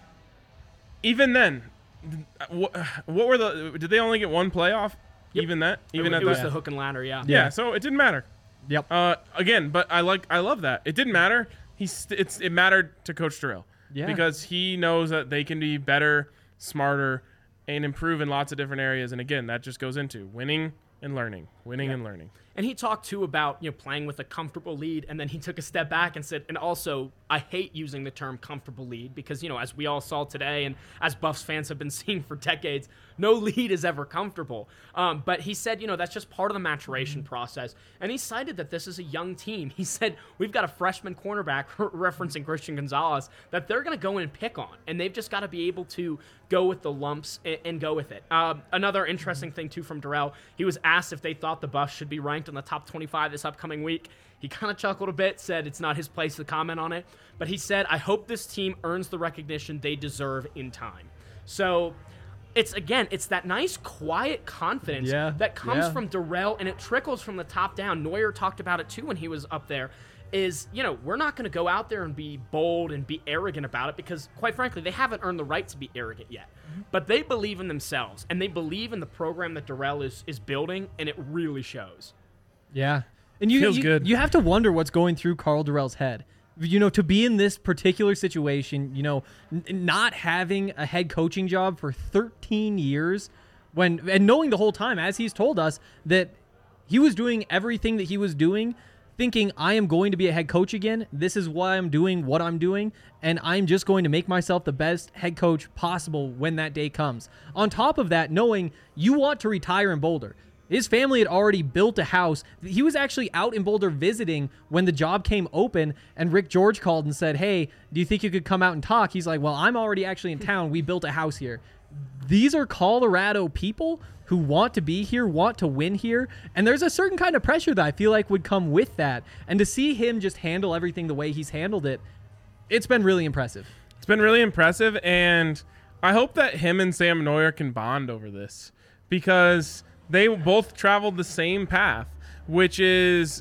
even then, what, what were the – did they only get one playoff? Yep. Even that? Even it, at it was that? the hook and ladder, yeah. Yeah, so it didn't matter. Yep. Uh, again, but I like I love that. It didn't matter. He's st- it's it mattered to Coach Durrell. Yeah. Because he knows that they can be better, smarter, and improve in lots of different areas. And again, that just goes into winning and learning, winning and learning. And he talked, too, about, you know, playing with a comfortable lead, and then he took a step back and said, and also, I hate using the term comfortable lead because, you know, as we all saw today and as Buffs fans have been seeing for decades, no lead is ever comfortable. Um, but he said, you know, that's just part of the maturation process. And he cited that this is a young team. He said, we've got a freshman cornerback, referencing Christian Gonzalez, that they're going to go in and pick on. And they've just got to be able to go with the lumps and, and go with it. Um, another interesting thing, too, from Durrell, he was asked if they thought the Buffs should be ranked in the top twenty-five this upcoming week. He kind of chuckled a bit, said it's not his place to comment on it. But he said, I hope this team earns the recognition they deserve in time. So it's, again, it's that nice, quiet confidence Yeah, that comes yeah. from Durrell, and it trickles from the top down. Neuer talked about it, too, when he was up there. Is, you know, we're not going to go out there and be bold and be arrogant about it because, quite frankly, they haven't earned the right to be arrogant yet. But they believe in themselves, and they believe in the program that Durrell is, is building, and it really shows. Yeah. And you, Feels you, good. you have to wonder what's going through Carl Durrell's head. You know, to be in this particular situation, you know, n- not having a head coaching job for thirteen years when and knowing the whole time, as he's told us, that he was doing everything that he was doing, thinking, I am going to be a head coach again. This is why I'm doing what I'm doing, and I'm just going to make myself the best head coach possible when that day comes. On top of that, knowing you want to retire in Boulder. His family had already built a house. He was actually out in Boulder visiting when the job came open, and Rick George called and said, hey, do you think you could come out and talk? He's like, well, I'm already actually in town. We built a house here. These are Colorado people who want to be here, want to win here, and there's a certain kind of pressure that I feel like would come with that. And to see him just handle everything the way he's handled it, it's been really impressive. It's been really impressive, and I hope that him and Sam Neuer can bond over this because they both traveled the same path, which is,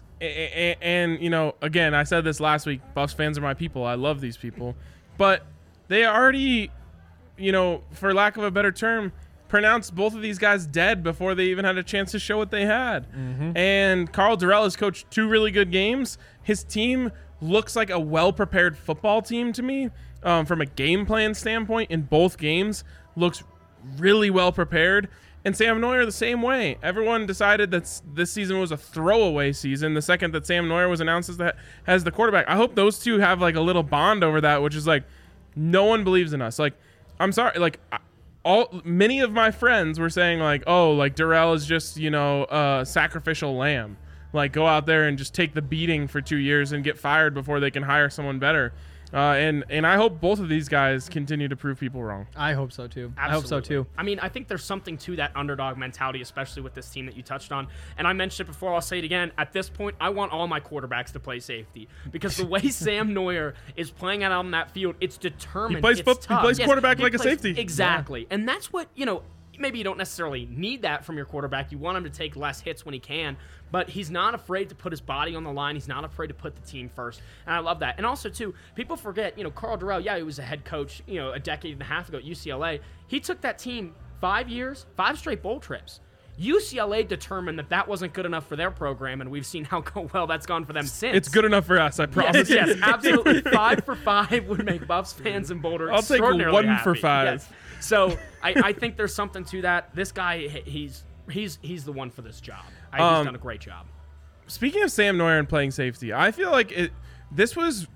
and, you know, again, I said this last week, Buffs fans are my people. I love these people. But they already, you know, for lack of a better term, pronounced both of these guys dead before they even had a chance to show what they had. Mm-hmm. And Carl Durrell has coached two really good games. His team looks like a well-prepared football team to me um, from a game plan standpoint in both games. Looks really well prepared. And Sam Neuer the same way. Everyone decided that s- this season was a throwaway season the second that Sam Neuer was announced as the, as the quarterback. I hope those two have like a little bond over that, which is like, no one believes in us. Like, I'm sorry, like all many of my friends were saying like, oh, like Darrell is just, you know, a sacrificial lamb. Like, go out there and just take the beating for two years and get fired before they can hire someone better. Uh, and and I hope both of these guys continue to prove people wrong. I hope so too. Absolutely. I hope so too. I mean, I think there's something to that underdog mentality, especially with this team that you touched on. And I mentioned it before, I'll say it again. At this point, I want all my quarterbacks to play safety because the way Sam Neuer is playing out on that field, it's determined. He plays, it's fo- he tough. plays Yes, quarterback he like a plays- safety. Exactly. Yeah. And that's what, you know, maybe you don't necessarily need that from your quarterback. You want him to take less hits when he can, but he's not afraid to put his body on the line. He's not afraid to put the team first, and I love that. And also, too, people forget, you know, Karl Dorrell, yeah, he was a head coach, you know, a decade and a half ago at U C L A. He took that team five years, five straight bowl trips. U C L A determined that that wasn't good enough for their program, and we've seen how well that's gone for them since. It's good enough for us, I promise. Yes, yes, absolutely. Five for five would make Buffs fans in Boulder I'll take extraordinarily one happy. for five. Yes. So I, I think there's something to that. This guy, he's he's he's the one for this job. I, he's Um, done a great job. Speaking of Sam Neuer and playing safety, I feel like it. This was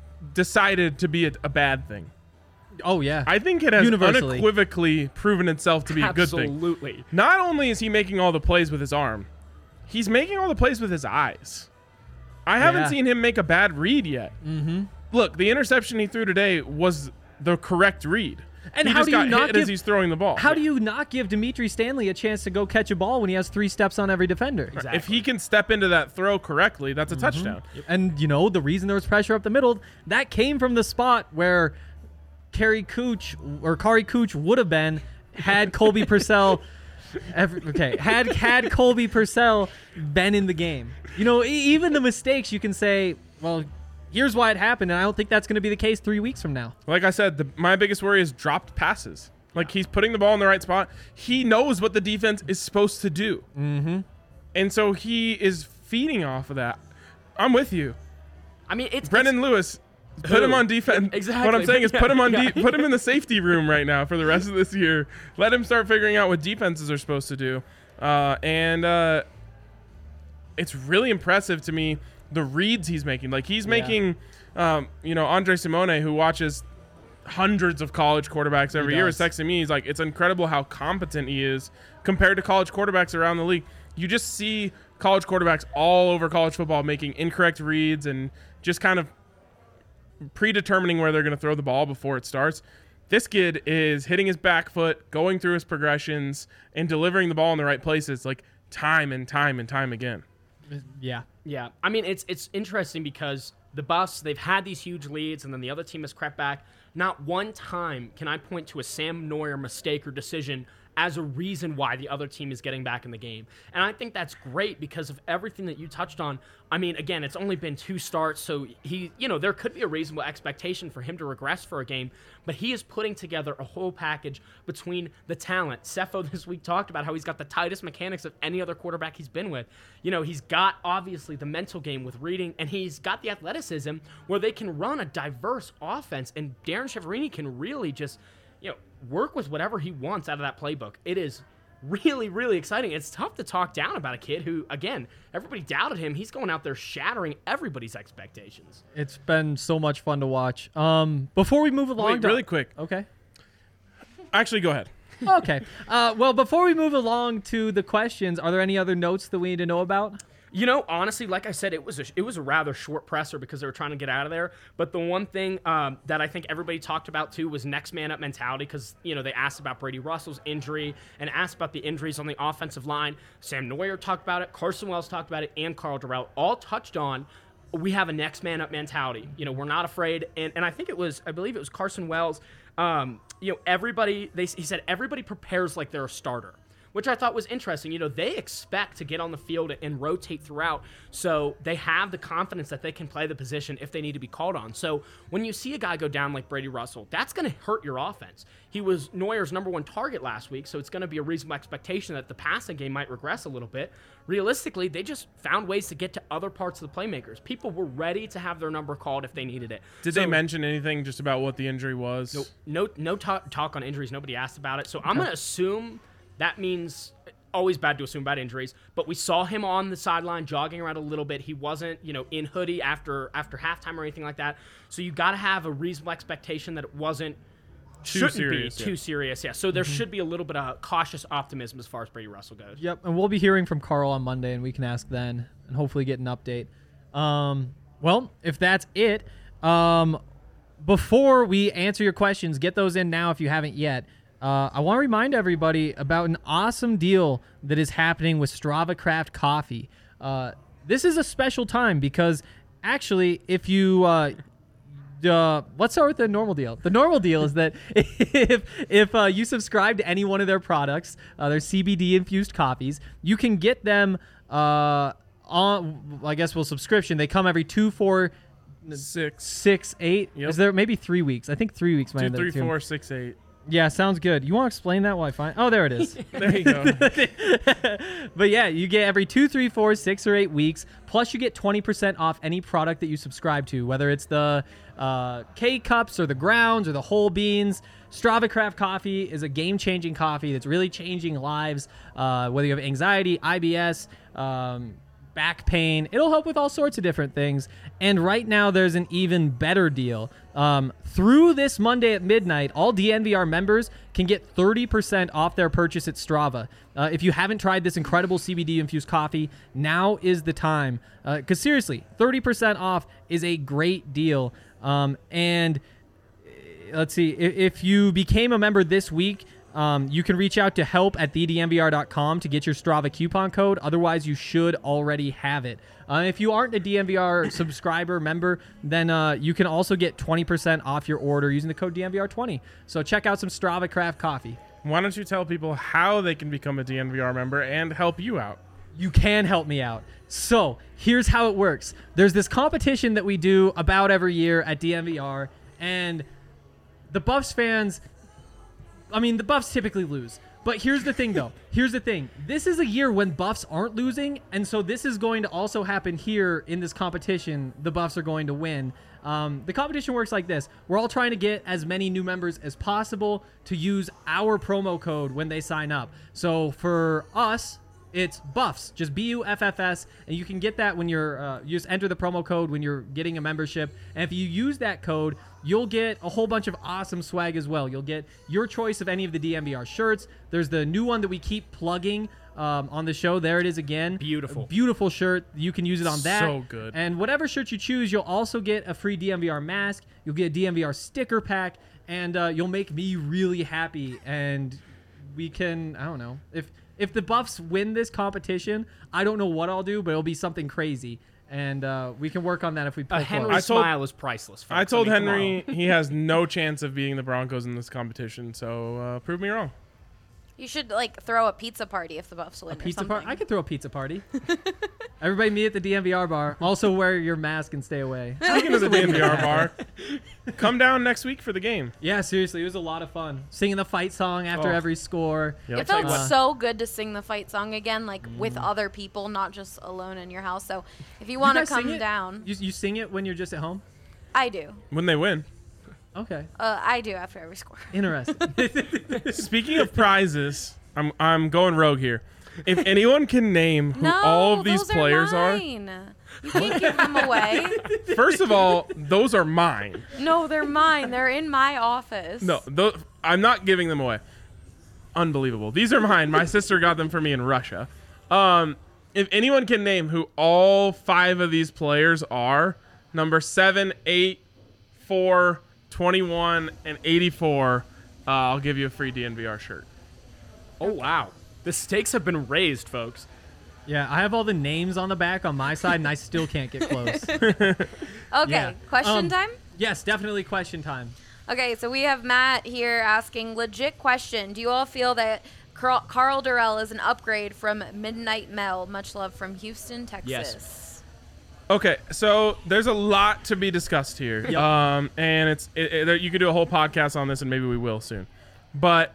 decided to be a, a bad thing. Oh yeah. I think it has Universally. unequivocally proven itself to be a good thing. Absolutely. Not only is he making all the plays with his arm, he's making all the plays with his eyes. I haven't Yeah. seen him make a bad read yet. Mm-hmm. Look, the interception he threw today was the correct read. And he how just do you got not hit give, as he's throwing the ball. How do you not give Dimitri Stanley a chance to go catch a ball when he has three steps on every defender? Exactly. If he can step into that throw correctly, that's a Mm-hmm. touchdown. And you know the reason there was pressure up the middle, that came from the spot where Kerry Cooch or Kari Cooch would have been had Colby Purcell. Every, okay, had had Colby Purcell been in the game. You know, e- even the mistakes you can say, well, here's why it happened, and I don't think that's going to be the case three weeks from now. Like I said, the, my biggest worry is dropped passes. Like, he's putting the ball in the right spot. He knows what the defense is supposed to do. Mm-hmm. And so he is feeding off of that. I'm with you. I mean, it's Brendan it's, Lewis, put him on defense. Exactly. What I'm saying is put him on Yeah. de- put him in the safety room right now for the rest of this year. Let him start figuring out what defenses are supposed to do. Uh, and uh, it's really impressive to me the reads he's making. Like, he's making, um, you know, Andre Simone, who watches hundreds of college quarterbacks every He year, does. is texting me. He's like, it's incredible how competent he is compared to college quarterbacks around the league. You just see college quarterbacks all over college football making incorrect reads and just kind of predetermining where they're going to throw the ball before it starts. This kid is hitting his back foot, going through his progressions, and delivering the ball in the right places, like time and time and time again. Yeah. Yeah, I mean, it's it's interesting because the Buffs, they've had these huge leads, and then the other team has crept back. Not one time can I point to a Sam Neuer mistake or decision as a reason why the other team is getting back in the game. And I think that's great because of everything that you touched on. I mean, again, it's only been two starts, so he, you know, there could be a reasonable expectation for him to regress for a game, but he is putting together a whole package between the talent. Cepho this week talked about how he's got the tightest mechanics of any other quarterback he's been with. You know, he's got, obviously, the mental game with reading, and he's got the athleticism where they can run a diverse offense, and Darren Chiaverini can really just, you know, work with whatever he wants out of that playbook. It is really, really exciting. It's tough to talk down about a kid who, again, everybody doubted him. He's going out there shattering everybody's expectations. It's been so much fun to watch. Um, before we move along, Wait, to- really quick. Okay. Actually, go ahead. Okay. Uh, well, before we move along to the questions, are there any other notes that we need to know about? You know, honestly, like I said, it was a, it was a rather short presser because they were trying to get out of there. But the one thing um, that I think everybody talked about, too, was next man up mentality because, you know, they asked about Brady Russell's injury and asked about the injuries on the offensive line. Sam Neuer talked about it. Carson Wells talked about it. And Karl Dorrell all touched on we have a next man up mentality. You know, we're not afraid. And, and I think it was, I believe it was Carson Wells. Um, you know, everybody, they, he said, everybody prepares like they're a starter, which I thought was interesting. You know, they expect to get on the field and rotate throughout, so they have the confidence that they can play the position if they need to be called on. So when you see a guy go down like Brady Russell, that's going to hurt your offense. He was Neuer's number one target last week, so it's going to be a reasonable expectation that the passing game might regress a little bit. Realistically, they just found ways to get to other parts of the playmakers. People were ready to have their number called if they needed it. Did So- they mention anything just about what the injury was? No, no, no talk, talk on injuries. Nobody asked about it. So I'm going to assume that means always bad to assume about injuries, but we saw him on the sideline jogging around a little bit. He wasn't, you know, in hoodie after after halftime or anything like that. So you got to have a reasonable expectation that it wasn't Too shouldn't serious, be yeah. too serious. Yeah. So there should be a little bit of cautious optimism as far as Brady Russell goes. Yep, and we'll be hearing from Carl on Monday, and we can ask then and hopefully get an update. Um, well, if that's it, um, before we answer your questions, get those in now if you haven't yet. Uh, I want to remind everybody about an awesome deal that is happening with Strava Craft Coffee. Uh, this is a special time because actually, if you uh, uh, let's start with the normal deal. The normal deal is that if if uh, you subscribe to any one of their products, uh, their C B D infused coffees, you can get them uh, on. I guess well, subscription. They come every two, four, Six. six, eight. Yep. Is there maybe three weeks? I think three weeks. might Two, end up three, too. four, six, eight. Yeah, sounds good. You want to explain that while I find? Oh, there it is. There you go. But yeah, you get every two, three, four, six, or eight weeks. Plus, you get twenty percent off any product that you subscribe to, whether it's the uh, K cups or the grounds or the whole beans. Strava Craft Coffee is a game-changing coffee that's really changing lives. Uh, whether you have anxiety, I B S, um, back pain, it'll help with all sorts of different things. And right now, there's an even better deal. Um, through this Monday at midnight, all D N V R members can get thirty percent off their purchase at Strava. Uh, if you haven't tried this incredible C B D-infused coffee, now is the time. Because uh, seriously, thirty percent off is a great deal. Um, and uh, let's see, if, if you became a member this week, Um, you can reach out to help at the d n v r dot com to get your Strava coupon code. Otherwise, you should already have it. Uh, if you aren't a D N V R subscriber member, then uh, you can also get twenty percent off your order using the code D N V R twenty. So check out some Strava Craft Coffee. Why don't you tell people how they can become a D N V R member and help you out? You can help me out. So here's how it works. There's this competition that we do about every year at D N V R, and the Buffs fans... I mean, the Buffs typically lose. But here's the thing, though. Here's the thing. This is a year when Buffs aren't losing, and so this is going to also happen here in this competition. The Buffs are going to win. Um, the competition works like this. We're all trying to get as many new members as possible to use our promo code when they sign up. So for us, it's Buffs, just B U F F S, and you can get that when you're, uh, you just enter the promo code when you're getting a membership. And if you use that code, you'll get a whole bunch of awesome swag as well. You'll get your choice of any of the D N V R shirts. There's the new one that we keep plugging um, on the show. There it is again. Beautiful. A beautiful shirt. You can use it on that. So good. And whatever shirt you choose, you'll also get a free D N V R mask. You'll get a D N V R sticker pack, and uh, you'll make me really happy. And we can, I don't know, if if the Buffs win this competition, I don't know what I'll do, but it'll be something crazy. And uh, we can work on that if we pull A Henry close. told- smile is priceless. Folks. I told mean, come on. Henry he has no chance of beating the Broncos in this competition, so uh, prove me wrong. You should like throw a pizza party if the Buffs win. A pizza or party? something. I could throw a pizza party. Everybody meet at the D N V R bar. Also wear your mask and stay away. Speaking of the D N V R bar, come down next week for the game. Yeah, seriously, it was a lot of fun. Singing the fight song after Oh. every score. Yep. It felt Uh, so good to sing the fight song again, like with Mm. other people, not just alone in your house. So if you You want to guys sing come it? down, You, you sing it when you're just at home? I do. When they win. Okay. Uh, I do after every score. Interesting. Speaking of prizes, I'm I'm going rogue here. If anyone can name who No, all of these those players are are, mine. You can't give them away. first of all, those are mine. No, they're mine. They're in my office. No, tho- I'm not giving them away. Unbelievable. These are mine. My sister got them for me in Russia. Um, if anyone can name who all five of these players are, number seven, eight, four, twenty-one, and eighty-four, uh, I'll give you a free D N V R shirt. Oh, wow. The stakes have been raised, folks. Yeah, I have all the names on the back on my side, and I still can't get close. Okay, Yeah. question Um, time? Yes, definitely question time. Okay, so we have Matt here asking, legit question. Do you all feel that Carl, Carl Durrell is an upgrade from Midnight Mel? Much love from Houston, Texas. Okay, so there's a lot to be discussed here, Yep. um, and it's it, it, you could do a whole podcast on this, and maybe we will soon. But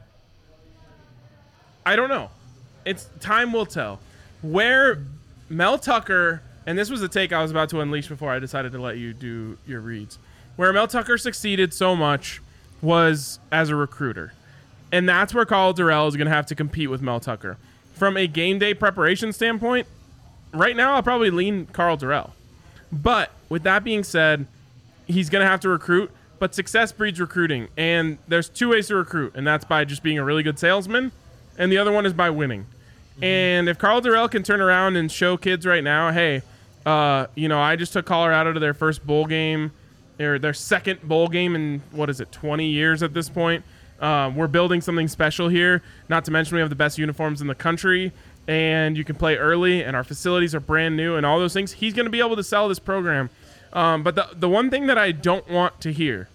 I don't know. It's time will tell. Where Mel Tucker, and this was the take I was about to unleash before I decided to let you do your reads. Where Mel Tucker succeeded so much was as a recruiter. And that's where Carl Durrell is going to have to compete with Mel Tucker. From a game day preparation standpoint, right now I'll probably lean Carl Durrell. But with that being said, he's going to have to recruit, but success breeds recruiting. And there's two ways to recruit, and that's by just being a really good salesman, and the other one is by winning. Mm-hmm. And if Carl Durrell can turn around and show kids right now, hey, uh, you know, I just took Colorado to their first bowl game, or their second bowl game in, what is it, twenty years at this point. Uh, we're building something special here. Not to mention we have the best uniforms in the country, and you can play early, and our facilities are brand new, and all those things. He's going to be able to sell this program. Um, but the the one thing that I don't want to hear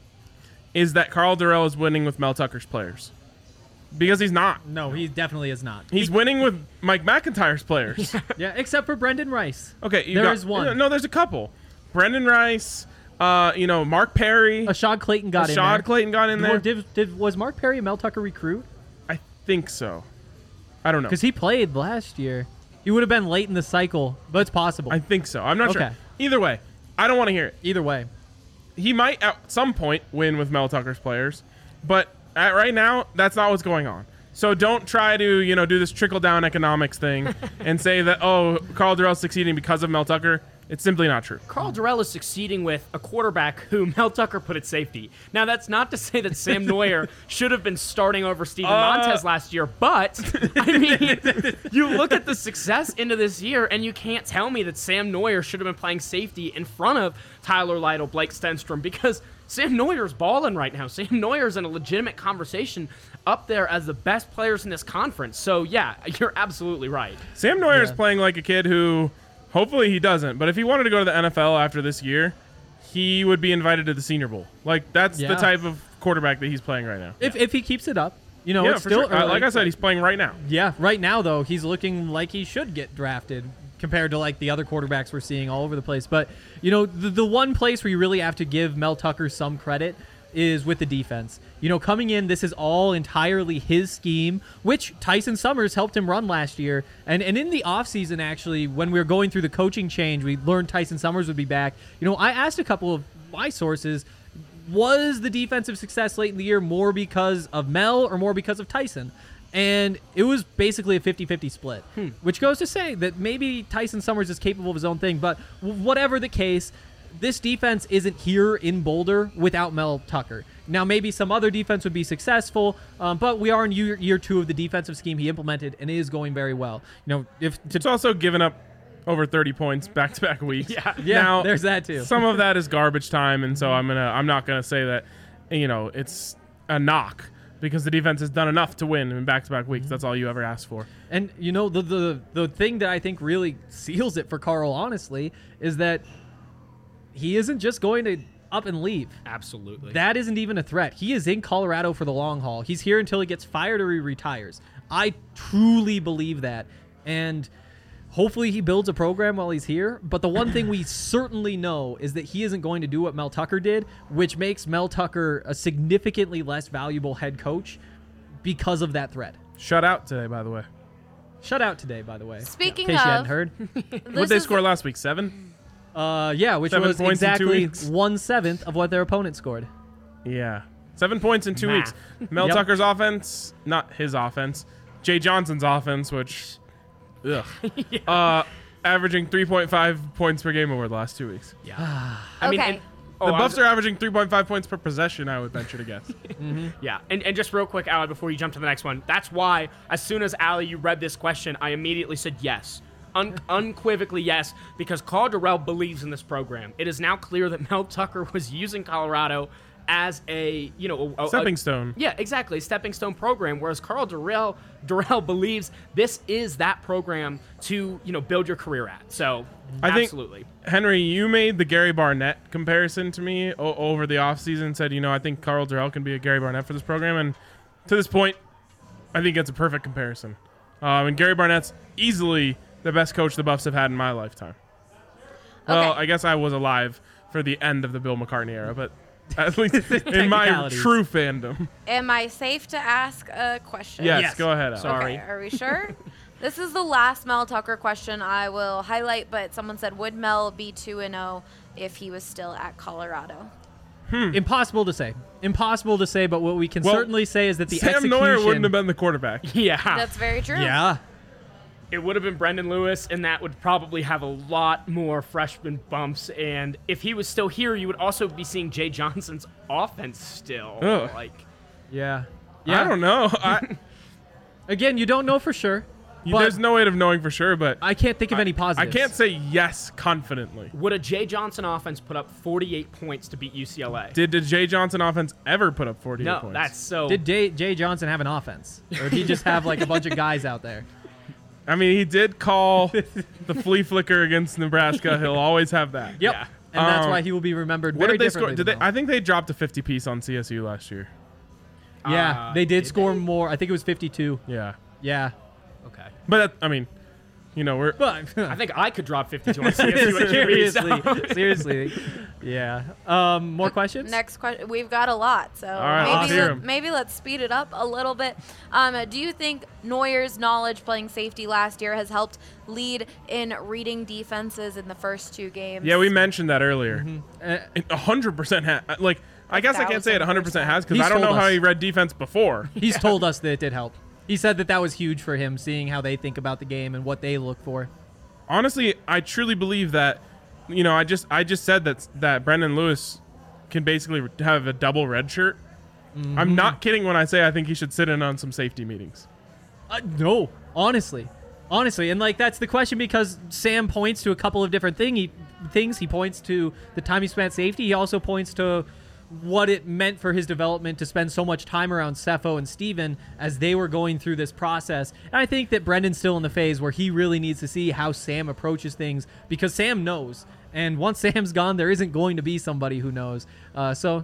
is that Carl Durrell is winning with Mel Tucker's players. Because he's not. No, he definitely is not. He's he, winning with Mike McIntyre's players. Yeah, except for Brendan Rice. Okay, you there got, is one. No, there's a couple. Brendan Rice, uh, you know, Mark Perry. Ashad Clayton got in there. Ashad Clayton got in there. Did, did, was Mark Perry a Mel Tucker recruit? I think so. I don't know. Because he played last year. He would have been late in the cycle, but it's possible. I think so. I'm not okay. sure. Either way, I don't want to hear it. Either way. He might at some point win with Mel Tucker's players, but at right now, that's not what's going on. So don't try to, you know, do this trickle-down economics thing and say that, oh, Carl Durrell's succeeding because of Mel Tucker. It's simply not true. Carl Durrell is succeeding with a quarterback who Mel Tucker put at safety. Now, that's not to say that Sam Neuer should have been starting over Steven Uh, Montez last year, but, I mean, you look at the success into this year, and you can't tell me that Sam Neuer should have been playing safety in front of Tyler Lytle, Blake Stenstrom, because Sam Neuer's balling right now. Sam Neuer's in a legitimate conversation up there as the best players in this conference. So, yeah, you're absolutely right. Sam Neuer is Yeah. playing like a kid who, hopefully he doesn't, but if he wanted to go to the N F L after this year, he would be invited to the Senior Bowl. Like, that's Yeah. the type of quarterback that he's playing right now. If, if he keeps it up, you know, yeah, it's for still sure. Uh, early. Like I said, he's playing right now. Yeah, right now, though, he's looking like he should get drafted compared to, like, the other quarterbacks we're seeing all over the place. But, you know, the, the one place where you really have to give Mel Tucker some credit is with the defense. You know, coming in, this is all entirely his scheme, which Tyson Summers helped him run last year. And and in the offseason, actually, when we were going through the coaching change, we learned Tyson Summers would be back. You know, I asked a couple of my sources, was the defensive success late in the year more because of Mel or more because of Tyson? And it was basically a fifty-fifty split, hmm. which goes to say that maybe Tyson Summers is capable of his own thing. But whatever the case, this defense isn't here in Boulder without Mel Tucker. Now, maybe some other defense would be successful, um, but we are in year, year two of the defensive scheme he implemented, and it is going very well. You know, if to It's also given up over thirty points back-to-back weeks. Yeah. yeah, now, there's that too. Some of that is garbage time, and so I'm gonna I'm not gonna say that, you know, it's a knock because the defense has done enough to win in back-to-back weeks. That's all you ever asked for. And you know, the the the thing that I think really seals it for Carl, honestly, is that he isn't just going to up and leave. Absolutely. That isn't even a threat. He is in Colorado for the long haul. He's here until he gets fired or he retires. I truly believe that. And hopefully he builds a program while he's here. But the one thing we certainly know is that he isn't going to do what Mel Tucker did, which makes Mel Tucker a significantly less valuable head coach because of that threat. Shut out today, by the way. Shut out today, by the way. Speaking in case of, you hadn't heard. What this they is- score last week? Seven? Uh, yeah, which Seven was points in two exactly weeks. one seventh of what their opponent scored. Yeah. Seven points in two Math. weeks. Mel Yep. Tucker's offense, not his offense. Jay Johnson's offense, which, ugh. Yeah. Uh, averaging three point five points per game over the last two weeks. Yeah. I mean, Okay. and, oh, the I Buffs was- are averaging three point five points per possession, I would venture to guess. Yeah, and, and just real quick, Allie, before you jump to the next one, that's why as soon as Allie, you read this question, I immediately said yes. Un- unequivocally yes, because Carl Durrell believes in this program. It is now clear that Mel Tucker was using Colorado as a, you know, a, a, Stepping a- stone. Yeah, exactly, a stepping stone program. Whereas Carl Durrell, Durrell believes this is that program to, you know, build your career at. So, I think- absolutely. Henry, you made the Gary Barnett comparison to me o- over the offseason, said, you know, I think Carl Durrell can be a Gary Barnett for this program. And to this point, I think it's a perfect comparison. Um, and Gary Barnett's easily the best coach the Buffs have had in my lifetime. Well, Okay. I guess I was alive for the end of the Bill McCartney era, but at least in my Technicalities. true fandom. Am I safe to ask a question? Yes, Yes. go ahead, Alex. Sorry. Okay, are we sure? This is the last Mel Tucker question I will highlight, but someone said, would Mel be two and oh if he was still at Colorado? Impossible to say. Impossible to say, but what we can Well, certainly say is that the Sam execution... Neuer wouldn't have been the quarterback. Yeah. That's very true. Yeah. It would have been Brendan Lewis, and that would probably have a lot more freshman bumps. And if he was still here, you would also be seeing Jay Johnson's offense still. Ugh. Like, Yeah. Yeah. I don't know. I, Again, you don't know for sure. But there's no way of knowing for sure, but I can't think of any I positives. can't say yes confidently. would a Jay Johnson offense put up forty-eight points to beat U C L A? Did the Jay Johnson offense ever put up forty-eight no, points? that's so. Did Jay, Jay Johnson have an offense? Or did he just have like a bunch of guys out there? I mean, he did call the flea flicker against Nebraska. He'll always have that. Yep. Yeah. And that's Um, why he will be remembered What very did they score? differently. Did they? than I think they dropped a fifty piece on C S U last year. Mel. Yeah, Uh, they did, did score they? more. I think it was fifty-two. Yeah, Yeah. Okay. but that, I mean, you know, we're But I think I could drop fifty-two on C S U at Q B, so- seriously, seriously. Yeah. Um, more questions? Next question. We've got a lot, so right, let's maybe hear let, 'em. maybe let's speed it up a little bit. Um, do you think Neuer's knowledge playing safety last year has helped lead in reading defenses in the first two games? yeah, we mentioned that earlier. Uh, It A hundred percent ha- like. I guess I can't say it a hundred percent has because He's I don't know told how us. he read defense before. he's told us that it did help. He said that that was huge for him, seeing how they think about the game and what they look for. Honestly, I truly believe that. You know, I just I just said that that Brendan Lewis can basically have a double red shirt. Mm-hmm. I'm not kidding when I say I think he should sit in on some safety meetings. Uh, no, honestly, honestly, and like that's the question because Sam points to a couple of different thing he, things. He points to the time he spent safety. He also points to what it meant for his development to spend so much time around Cepho and Steven as they were going through this process. And I think that Brendan's still in the phase where he really needs to see how Sam approaches things because Sam knows. And once Sam's gone, there isn't going to be somebody who knows. Uh, so,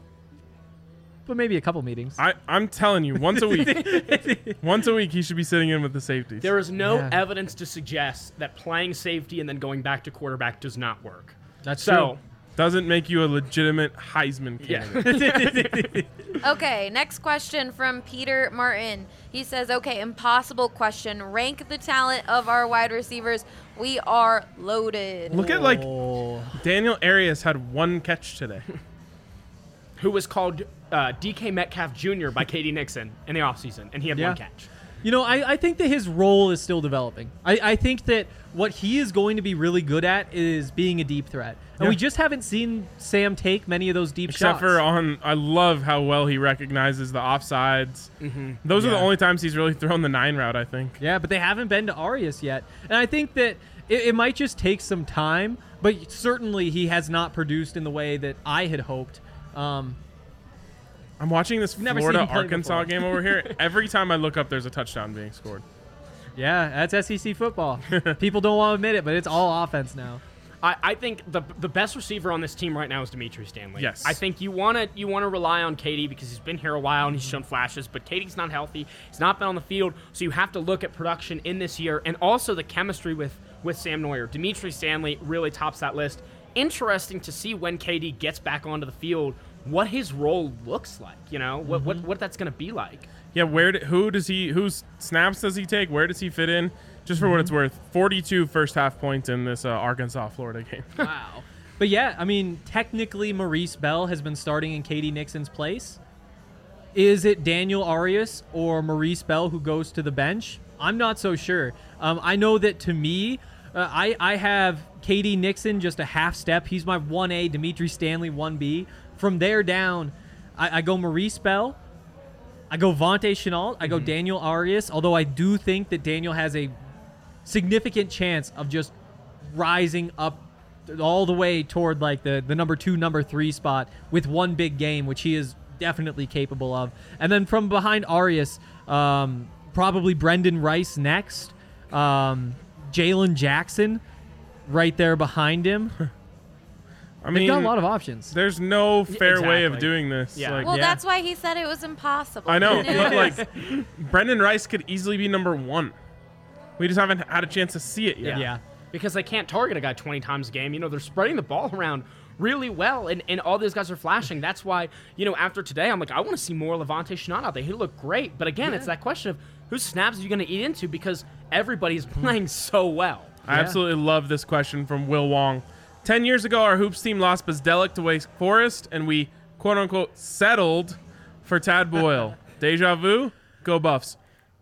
but maybe a couple meetings. I I'm telling you, once a week, once a week he should be sitting in with the safeties. There is no Yeah. evidence to suggest that playing safety and then going back to quarterback does not work. That's So, true. Doesn't make you a legitimate Heisman yeah. candidate. Okay, next question from Peter Martin. He says, okay, impossible question. Rank the talent of our wide receivers. We are loaded. Look at like Oh. Daniel Arias had one catch today. Who was called uh, D K Metcalf Junior by Katie Nixon in the offseason, and he had Yeah. one catch. You know, I, I think that his role is still developing. I, I think that what he is going to be really good at is being a deep threat. And Yeah. we just haven't seen Sam take many of those deep Except shots. for on, I love how well he recognizes the offsides. Mm-hmm. Those are the Yeah. only times he's really thrown the nine route, I think. Yeah, but they haven't been to Arias yet. And I think that it, it might just take some time, but certainly he has not produced in the way that I had hoped. Um, I'm watching this Never seen him Florida play Arkansas before. game over here. Every time I look up, there's a touchdown being scored. yeah, that's S E C football. People don't want to admit it, but it's all offense now. I, I think the the best receiver on this team right now is Dimitri Stanley. Yes. I think you want to you want to rely on Katie because he's been here a while and he's shown flashes, but Katie's not healthy. He's not been on the field, so you have to look at production in this year and also the chemistry with with Sam Neuer. Dimitri Stanley really tops that list. Interesting to see when Katie gets back onto the field what his role looks like. You know what Mm-hmm. what what that's going to be like. Yeah, where do, who does he whose snaps does he take? Where does he fit in? Just for what it's worth, forty-two first half points in this uh, Arkansas Florida game. Wow. But yeah, I mean, technically Maurice Bell has been starting in Katie Nixon's place. Is it Daniel Arias or Maurice Bell who goes to the bench? I'm not so sure. Um, I know that to me, uh, I, I have Katie Nixon just a half step. He's my one A, Dimitri Stanley one B. From there down, I, I go Maurice Bell. I go Vontae Chenault. I go Daniel Arias, although I do think that Daniel has a significant chance of just rising up all the way toward like the, the number two, number three spot with one big game, which he is definitely capable of. And then from behind Arias, um, probably Brendan Rice next. Um, Jalen Jackson right there behind him. I They've mean, got a lot of options. there's no fair way of exactly. doing this. Yeah. Like, Well, Yeah. that's why he said it was impossible. I know, you but like Brendan Rice could easily be number one. We just haven't had a chance to see it yet. Yeah. Because they can't target a guy twenty times a game. You know, they're spreading the ball around really well, and, and all these guys are flashing. That's why, you know, after today, I'm like, I want to see more Levante Chenault out there. He looked great. But again, it's that question of whose snaps are you going to eat into because everybody's playing so well. I absolutely love this question from Will Wong. Ten years ago, our hoops team lost Bezdelic to Wake Forest, and we quote unquote settled for Tad Boyle. Deja vu? Go Buffs.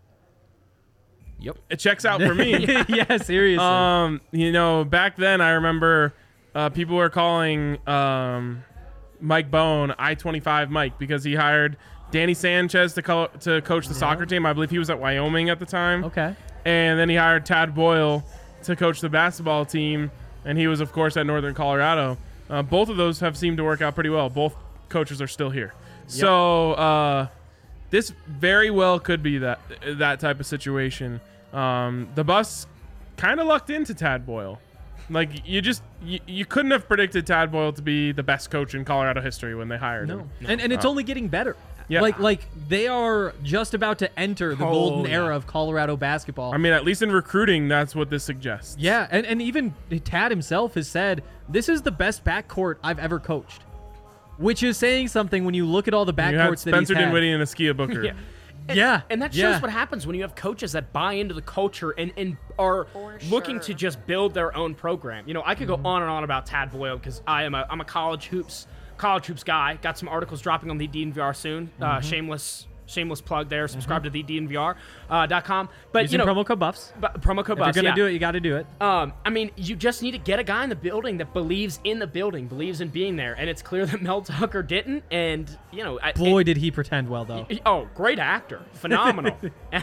Yep. It checks out for me. Yeah, seriously. Um, you know, back then I remember uh, people were calling um, Mike Bone I twenty-five Mike because he hired Danny Sanchez to co- to coach the yeah. soccer team. I believe he was at Wyoming at the time. Okay. And then he hired Tad Boyle to coach the basketball team, and he was, of course, at Northern Colorado. Uh, both of those have seemed to work out pretty well. Both coaches are still here. Yep. So uh, this very well could be that that type of situation. Um, the Buffs kind of lucked into Tad Boyle. Like, you just you, you couldn't have predicted Tad Boyle to be the best coach in Colorado history when they hired no. him. And and it's uh, only getting better. Yeah. Like like they are just about to enter the Oh, golden yeah. era of Colorado basketball. I mean, at least in recruiting, that's what this suggests. Yeah, and, and even Tad himself has said, this is the best backcourt I've ever coached. Which is saying something when you look at all the You had backcourts that he's Spencer had. Dinwiddie and Askia Booker. Yeah. And, Yeah, and that shows yeah. what happens when you have coaches that buy into the culture and, and are For looking sure. to just build their own program. You know, I could go on and on about Tad Boyle because I am a I'm a college hoops college hoops guy. Got some articles dropping on the D N V R soon. Uh, shameless shameless plug there. Subscribe to the D N V R dot com. But Using you know, promo code Buffs. but promo code If you're Buffs. gonna yeah. do it, you got to do it. Um, I mean, you just need to get a guy in the building that believes in the building, believes in being there, and it's clear that Mel Tucker didn't. And you know, I- Boy, it- did he pretend well though. Oh, great actor. Phenomenal.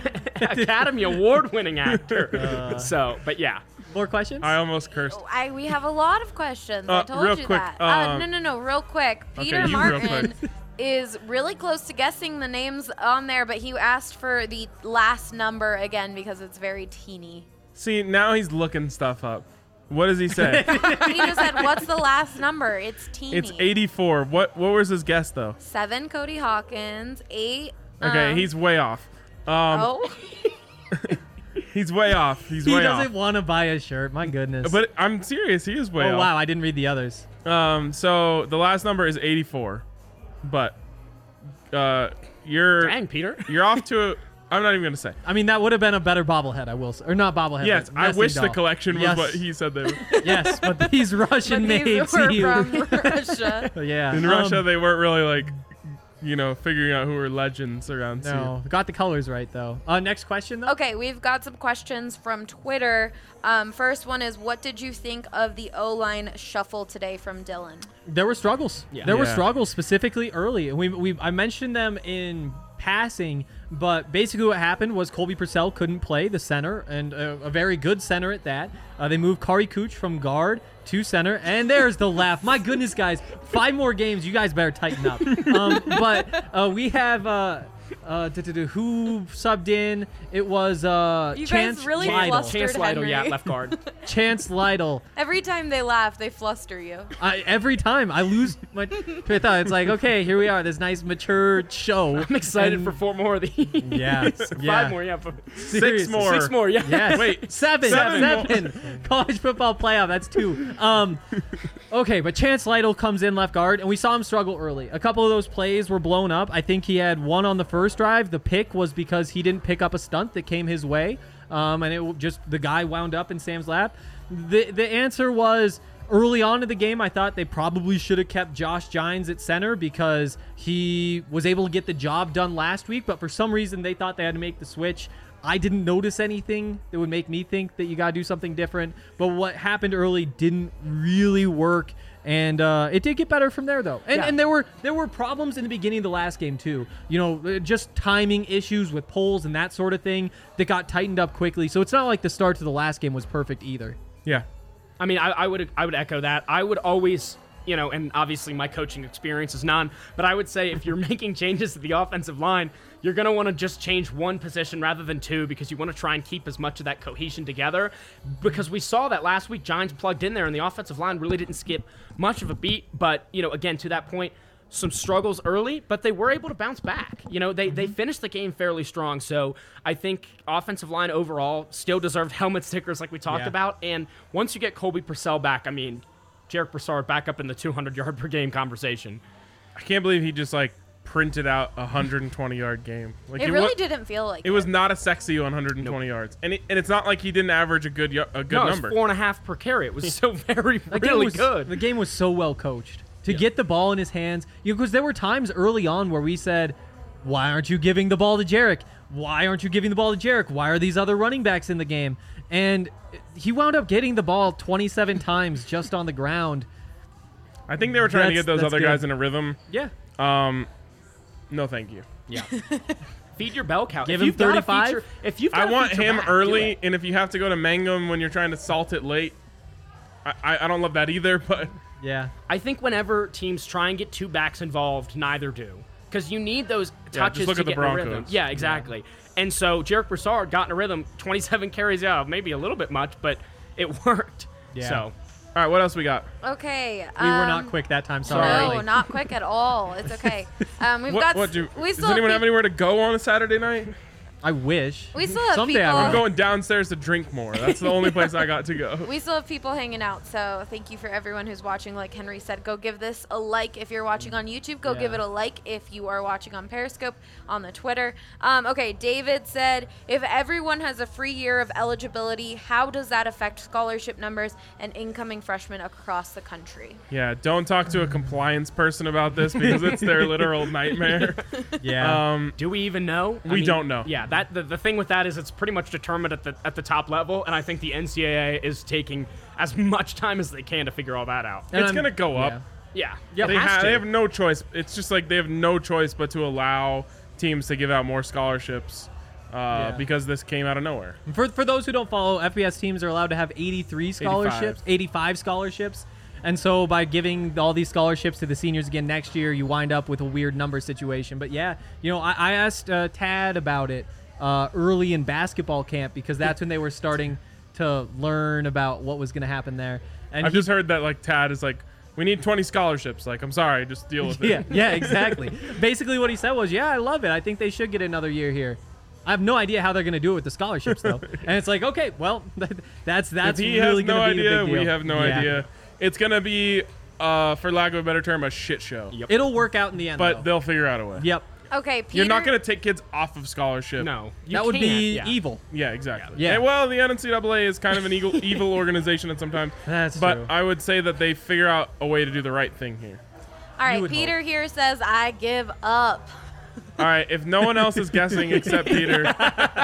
Academy Award-winning actor. Uh. so, but yeah. More questions? I almost cursed. I we have a lot of questions. Uh, I told real you quick, that. uh, um, no, no, no, real quick. Peter you real Martin is really close to guessing the names on there, but he asked for the last number again because it's very teeny. See, now he's looking stuff up. What does he say? He just said, "What's the last number?" It's teeny. It's eighty-four. What What was his guess though? Seven, Cody Hawkins. Eight. Okay, um, he's way off. Um, Oh. He's way off. He's he way doesn't off. want to buy a shirt. My goodness. But I'm serious. He is way oh off. wow, I didn't read the others. Um. So the last number is eighty-four, but uh, you're Dang, Peter. you're off to. A, I'm not even gonna say. I mean, that would have been a better bobblehead, I will say. Or not bobblehead. Yes, but I nesting wish the doll. collection was Yes. what he said they were. Yes, but these Russian But these made were to you. from Russia. Yeah. In um, Russia, they weren't really like, you know, figuring out who were legends around. No, got the colors right though. Uh, next question though. Okay, we've got some questions from Twitter. Um, first one is, what did you think of the O-line shuffle today from Dylan? There were struggles. Yeah. There were Yeah. struggles specifically early, and we we I mentioned them in passing, but basically what happened was Colby Purcell couldn't play the center, and a, a very good center at that. Uh, they moved Kari Cooch from guard to center, and there's the laugh. My goodness, guys, five more games. You guys better tighten up. Um, but uh, we have. Uh, Uh, duh, duh, duh, who subbed in? It was uh, You guys Chance really Lytle. flustered Chance Lytle, yeah, Henry. left guard. Chance Lytle. Every time they laugh, they fluster you. I, every time I lose my train of thought, it's like, okay, here we are, this nice mature show. I'm excited And- for four more of these. Yeah, yeah. Five more, yeah. f- Seriously. more. Six more, yeah. Yes. Wait, seven, seven seven. College football playoff. That's two. Um, okay, but Chance Lytle comes in left guard, and we saw him struggle early. A couple of those plays were blown up. I think he had one on the first drive. The pick was because he didn't pick up a stunt that came his way, um, and it w- just the guy wound up in Sam's lap. The the answer was. Early on in the game, I thought they probably should have kept Josh Gines at center because he was able to get the job done last week, but for some reason they thought they had to make the switch. I didn't notice anything that would make me think that you got to do something different, but what happened early didn't really work, and uh, it did get better from there, though. And, Yeah. and there were there were problems in the beginning of the last game, too. You know, just timing issues with polls and that sort of thing that got tightened up quickly, so it's not like the start to the last game was perfect either. Yeah. I mean, I, I would I would echo that. I would always, you know, and obviously my coaching experience is none, but I would say if you're making changes to the offensive line, you're going to want to just change one position rather than two because you want to try and keep as much of that cohesion together. Because we saw that last week, Giants plugged in there, and the offensive line really didn't skip much of a beat. But, you know, again, to that point, some struggles early, but they were able to bounce back. You know, they, they finished the game fairly strong. So I think offensive line overall still deserved helmet stickers like we talked Yeah. about. And once you get Colby Purcell back, I mean, Jarek Broussard back up in the two hundred yard per game conversation. I can't believe he just like printed out a one hundred twenty yard game. Like It it really wa- didn't feel like It was not a sexy one hundred twenty yards, and it, and it's not like he didn't average a good y- a good no, number. it's four and a half per carry. It was so very, The game really was, good. The game was so well coached, to get the ball in his hands. You know, because there were times early on where we said, why aren't you giving the ball to Jarek? Why aren't you giving the ball to Jarek? Why are these other running backs in the game? And he wound up getting the ball twenty-seven times just on the ground. I think they were trying to That's- get those that's other good. guys in a rhythm. Yeah. Um, no, thank you. Yeah. Feed your bell cow. Give if him you've got a thirty-five? feature- If you've I got a want feature him back, do early, it. and if you have to go to Mangum when you're trying to salt it late, I, I, I don't love that either, but Yeah. I think whenever teams try and get two backs involved, neither do. Because you need those Yeah, touches just look to at the get in a rhythm. Broncos. Yeah, exactly. And so Jarek Broussard got in a rhythm, twenty-seven carries out, maybe a little bit much, but it worked. Yeah. So all right, what else we got? Okay. We were not um, quick that time. Sorry. No, not quick at all. It's okay. Um, we've What, got. what do, we does still anyone have have peop- anywhere to go on a Saturday night? I wish. We still have Someday I people- will. I'm going downstairs to drink more. That's the only place I got to go. We still have people hanging out, so thank you for everyone who's watching. Like Henry said, go give this a like if you're watching on YouTube. Go give Yeah. it a like if you are watching on Periscope, on the Twitter. Um, okay, David said, if everyone has a free year of eligibility, how does that affect scholarship numbers and incoming freshmen across the country? Yeah, don't talk to a compliance person about this because it's their literal nightmare. Yeah. Um, do we even know? I We don't know. Yeah, that the, the thing with that is it's pretty much determined at the at the top level, and I think the N C double A is taking as much time as they can to figure all that out. And it's I'm- gonna go up. yeah. Yeah. they, it has ha- to. they have no choice. It's just like they have no choice but to allow teams to give out more scholarships uh, Yeah. because this came out of nowhere. For, for those who don't follow, F B S teams are allowed to have eighty-three scholarships, eighty-five scholarships. And so by giving all these scholarships to the seniors again next year, you wind up with a weird number situation. But yeah, you know, I, I asked uh, Tad about it uh, early in basketball camp because that's when they were starting to learn about what was going to happen there. And I've he- just heard that like Tad is like, we need twenty scholarships. Like, I'm sorry, just deal with it. yeah, yeah, exactly. Basically what he said was, yeah, I love it. I think they should get another year here. I have no idea how they're going to do it with the scholarships, though. And it's like, okay, well, that's that's If he really has no going to be a idea, big deal. we have no Yeah. idea. It's gonna be, uh, for lack of a better term, a shit show. Yep. It'll work out in the end, But though. they'll figure out a way. Yep. Okay, Peter. You're not gonna take kids off of scholarship. No, you that would can't. be Yeah. evil. Yeah, exactly. Yeah. And, well, the N C double A is kind of an evil, evil organization at sometimes. That's but true. I would say that they figure out a way to do the right thing here. All right, would Peter here says, I give up. All right, if no one else is guessing except Peter, uh,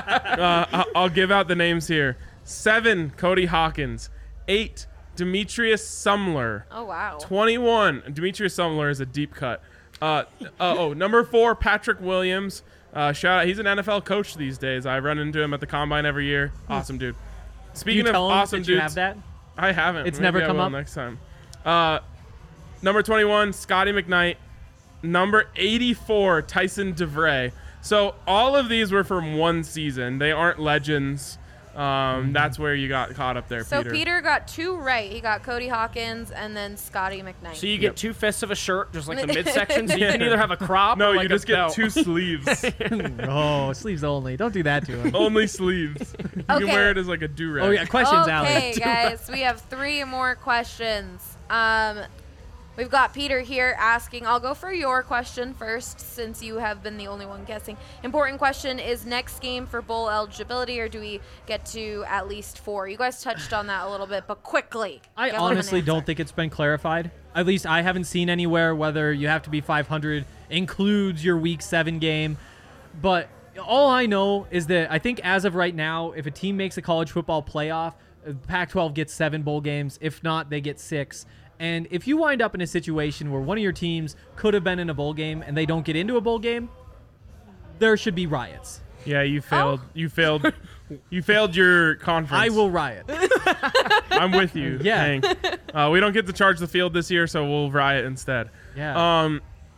I- I'll give out the names here. Seven, Cody Hawkins. Eight, Demetrius Sumler. Oh, wow. twenty-one, Demetrius Sumler is a deep cut. Uh, uh, oh, number four, Patrick Williams. Uh, shout out, he's an N F L coach these days. I run into him at the combine every year. Awesome dude. Do Speaking you of tell 'em awesome that dudes, you have that? I haven't. It's Maybe never I come will up? next time. Uh, number twenty-one, Scotty McKnight. Number eighty-four, Tyson DeVray. So all of these were from one season. They aren't legends. Um, that's where you got caught up there, So Peter. Peter got two right. He got Cody Hawkins and then Scotty McKnight. So you Yep. get two fists of a shirt, just like the midsection. So you can either have a crop no, or like you just a get belt. two sleeves. Oh, sleeves only. Don't do that to him. Only sleeves. You Okay. can wear it as like a do-rag. Oh, yeah. Questions, Alex. Okay, guys, we have three more questions. Um, we've got Peter here asking. I'll go for your question first, since you have been the only one guessing. Important question: is next game for bowl eligibility, or do we get to at least four? You guys touched on that a little bit, but quickly. I give them an honestly don't answer. think it's been clarified. At least I haven't seen anywhere whether you have to be five hundred includes your week seven game. But all I know is that I think as of right now, if a team makes a college football playoff, Pac twelve gets seven bowl games. If not, they get six. And if you wind up in a situation where one of your teams could have been in a bowl game and they don't get into a bowl game, there should be riots. Yeah, you failed. Oh. You failed. You failed your conference. I will riot. I'm with you. Yeah. Hank. Uh, we don't get to charge the field this year, so we'll riot instead. Yeah. Um.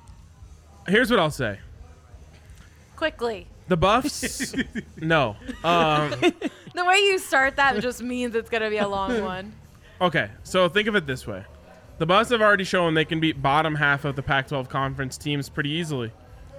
Here's what I'll say. Quickly. The Buffs. no. Um. The way you start that just means it's gonna be a long one. Okay, so think of it this way. The Buffs have already shown they can beat bottom half of the Pac twelve conference teams pretty easily.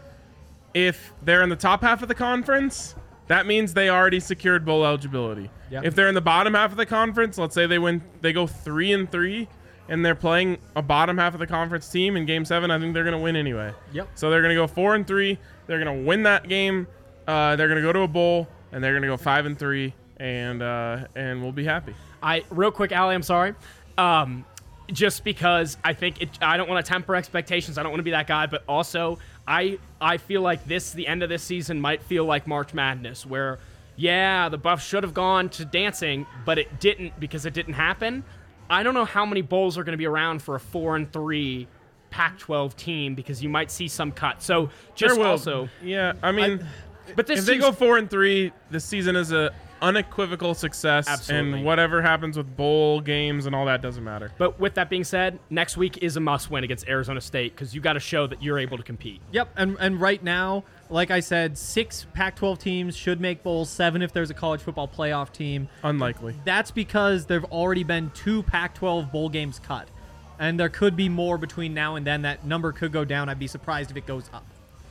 If they're in the top half of the conference, that means they already secured bowl eligibility. Yep. If they're in the bottom half of the conference, let's say they win, they go three and three, and they're playing a bottom half of the conference team in Game Seven, I think they're gonna win anyway. Yep. So they're gonna go four and three. They're gonna win that game. Uh, they're gonna go to a bowl, and they're gonna go five and three, and uh, and we'll be happy. I real quick, Allie, I'm sorry. Um, just because I think it, I don't want to temper expectations. I don't want to be that guy, but also I I feel like this the end of this season might feel like March Madness, where yeah, the Buffs should have gone to dancing, but it didn't because it didn't happen. I don't know how many bowls are going to be around for a four and three Pac twelve team because you might see some cut. So just There will- also, yeah, I mean, but this if they seems- go four and three, the season is a unequivocal success, Absolutely. and whatever happens with bowl games and all that doesn't matter. But with that being said, next week is a must-win against Arizona State because you got to show that you're able to compete. Yep, and and right now, like I said, six Pac twelve teams should make bowls, seven if there's a college football playoff team. Unlikely. That's because there've already been two Pac twelve bowl games cut, and there could be more between now and then. That number could go down. I'd be surprised if it goes up.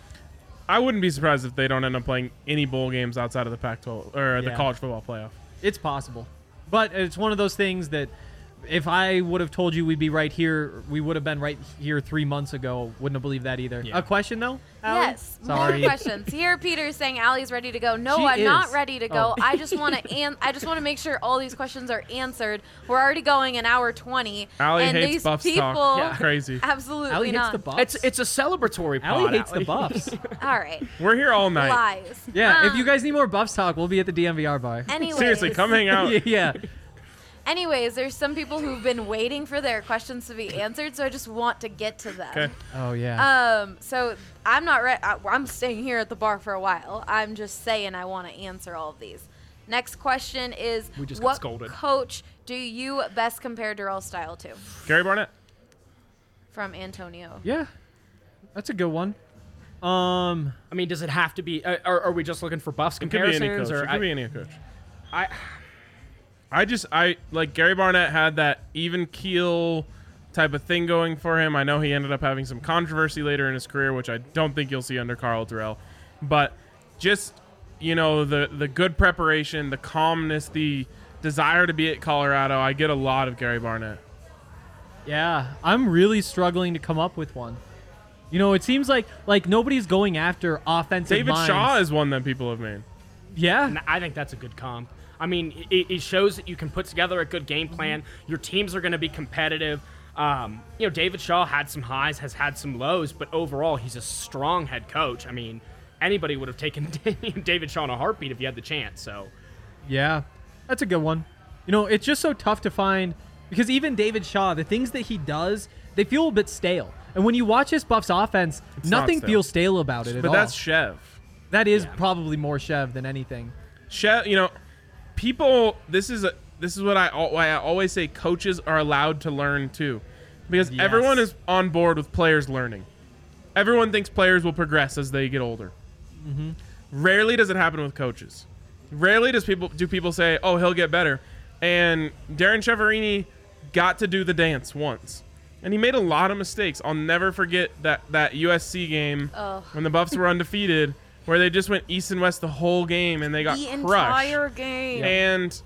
I wouldn't be surprised if they don't end up playing any bowl games outside of the Pac twelve or the Yeah. college football playoff. It's possible, but it's one of those things that if I would have told you we'd be right here, we would have been right here three months ago. Wouldn't have believed that either. Yeah. A question though? Allie? Yes, Sorry. more questions. Here, Peter's saying Allie's ready to go. No, She I'm not is. ready to go. Oh. I just want to an- I just want to make sure all these questions are answered. We're already going an hour twenty. Allie and hates these Buffs people, talk. Yeah. Crazy. Absolutely Allie hates not. the Buffs. It's it's a celebratory pod. Allie hates the Allie. Buffs. All right, We're here all night. lies. Yeah, if Um, you guys need more Buffs talk, we'll be at the D M V R bar. anyways, Seriously, come hang out. yeah. Anyways, there's some people who've been waiting for their questions to be answered, so I just want to get to them. Okay. Oh yeah. Um, so I'm not ready. I'm staying here at the bar for a while. I'm just saying I want to answer all of these. Next question is, We just got what scolded. coach do you best compare Durrell's style to? Gary Barnett. From Antonio. yeah. That's a good one. Um. I mean, does it have to be? Uh, are, are we just looking for Buffs It could be any comparisons? coach. Or It could I, be any coach. I, I just I like Gary Barnett had that even keel type of thing going for him. I know he ended up having some controversy later in his career, which I don't think you'll see under Carl Durrell. But just you know the the good preparation, the calmness, the desire to be at Colorado. I get a lot of Gary Barnett. Yeah, I'm really struggling to come up with one. You know, it seems like like nobody's going after offensive David minds. Shaw is one that people have made. Yeah. And I think that's a good comp. I mean, it, it shows that you can put together a good game plan. Your teams are going to be competitive. Um, you know, David Shaw had some highs, has had some lows, but overall, he's a strong head coach. I mean, anybody would have taken David Shaw in a heartbeat if you had the chance. So, Yeah, that's a good one. You know, it's just so tough to find because even David Shaw, the things that he does, they feel a bit stale. And when you watch this Buffs offense, It's not nothing stale. feels stale about it at But all. that's Chev. that is Yeah. probably more Chev than anything. Chev, you know, people. This is a this is what I al- why I always say coaches are allowed to learn too, because Yes. everyone is on board with players learning. Everyone thinks players will progress as they get older. Mm-hmm. Rarely does it happen with coaches. Rarely does people do people say, "Oh, he'll get better." And Darren Cheverini got to do the dance once, and he made a lot of mistakes. I'll never forget that that U S C game Ugh. when the Buffs were undefeated, where they just went east and west the whole game and they got The crushed. entire game. And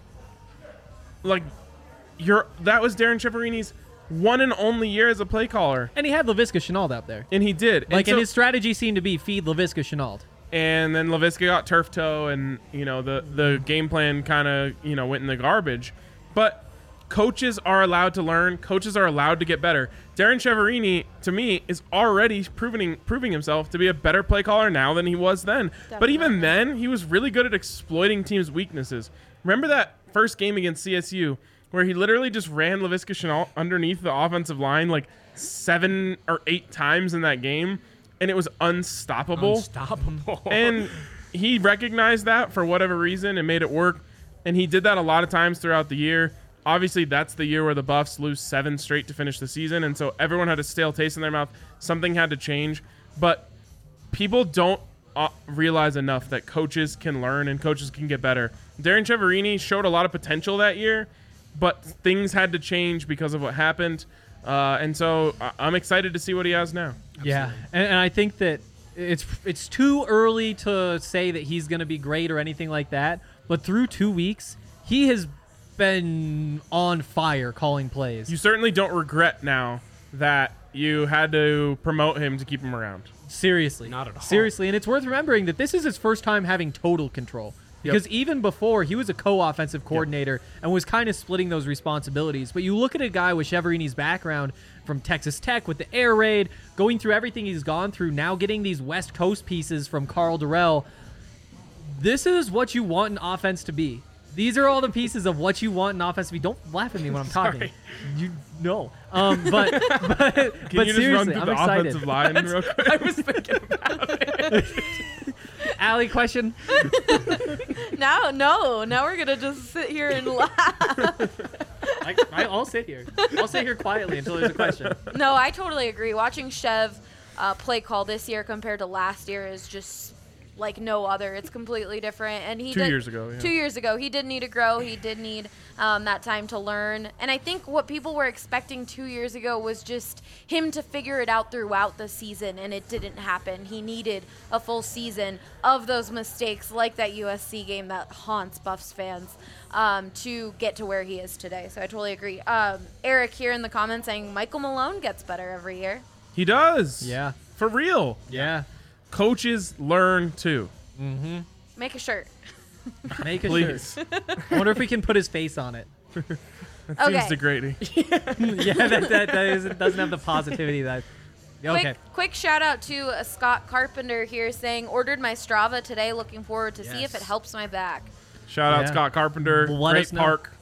like, you're that was Darren Cheverini's one and only year as a play caller, And he had LaVisca Chenault out there. and he did. Like, and, and so- his strategy seemed to be feed LaVisca Chenault. and then LaVisca got turf toe, and you know the the game plan kind of you know went in the garbage. But coaches are allowed to learn. Coaches are allowed to get better. Darren Cheverini, to me, is already proving proving himself to be a better play caller now than he was then. But even then, he was really good at exploiting teams' weaknesses. Remember that first game against C S U where he literally just ran LaVisca Chenault underneath the offensive line like seven or eight times in that game, and it was unstoppable. unstoppable. And he recognized that for whatever reason and made it work. And he did that a lot of times throughout the year. Obviously, that's the year where the Buffs lose seven straight to finish the season. And so everyone had a stale taste in their mouth. Something had to change. But people don't uh, realize enough that coaches can learn and coaches can get better. Darren Cheverini showed a lot of potential that year, but things had to change because of what happened. Uh, and so I- I'm excited to see what he has now. Yeah, and, and I think that it's it's too early to say that he's going to be great or anything like that. But through two weeks, he has been on fire calling plays. You certainly don't regret now that you had to promote him to keep him around. Seriously, Not at all. Seriously, and it's worth remembering that this is his first time having total control. Because even before, he was a co-offensive coordinator yep. and was kind of splitting those responsibilities. But you look at a guy with Cheverini's background from Texas Tech with the air raid, going through everything he's gone through, now getting these West Coast pieces from Carl Durrell. This is what you want an offense to be. These are all the pieces of what you want an offense to be. Don't laugh at me when I'm talking. You know. Um, but but, Can but you seriously, just run through I'm the excited. offensive line real quick? I was thinking about it. Allie, question? Now, no. Now we're going to just sit here and laugh. I, I, I'll sit here. I'll sit here quietly until there's a question. No, I totally agree. Watching Chev uh, play call this year compared to last year is just like no other. It's completely different. And he Two did, years ago, yeah. Two years ago, he did need to grow. He did need um, that time to learn. And I think what people were expecting two years ago was just him to figure it out throughout the season, and it didn't happen. He needed a full season of those mistakes, like that U S C game that haunts Buffs fans, um, to get to where he is today. So I totally agree. Um, Eric here in the comments saying Michael Malone gets better every year. He does. Yeah. For real. Yeah. Coaches learn too. Mm-hmm. Make a shirt. Make a Please. shirt. I wonder if we can put his face on it. That Okay. seems degrading. yeah, that, that, that is, doesn't have the positivity that. Okay. Quick, quick shout out to uh, Scott Carpenter here saying, ordered my Strava today. Looking forward to see if Yes. it helps my back. Shout out Yeah. Scott Carpenter. Let Great us know. park.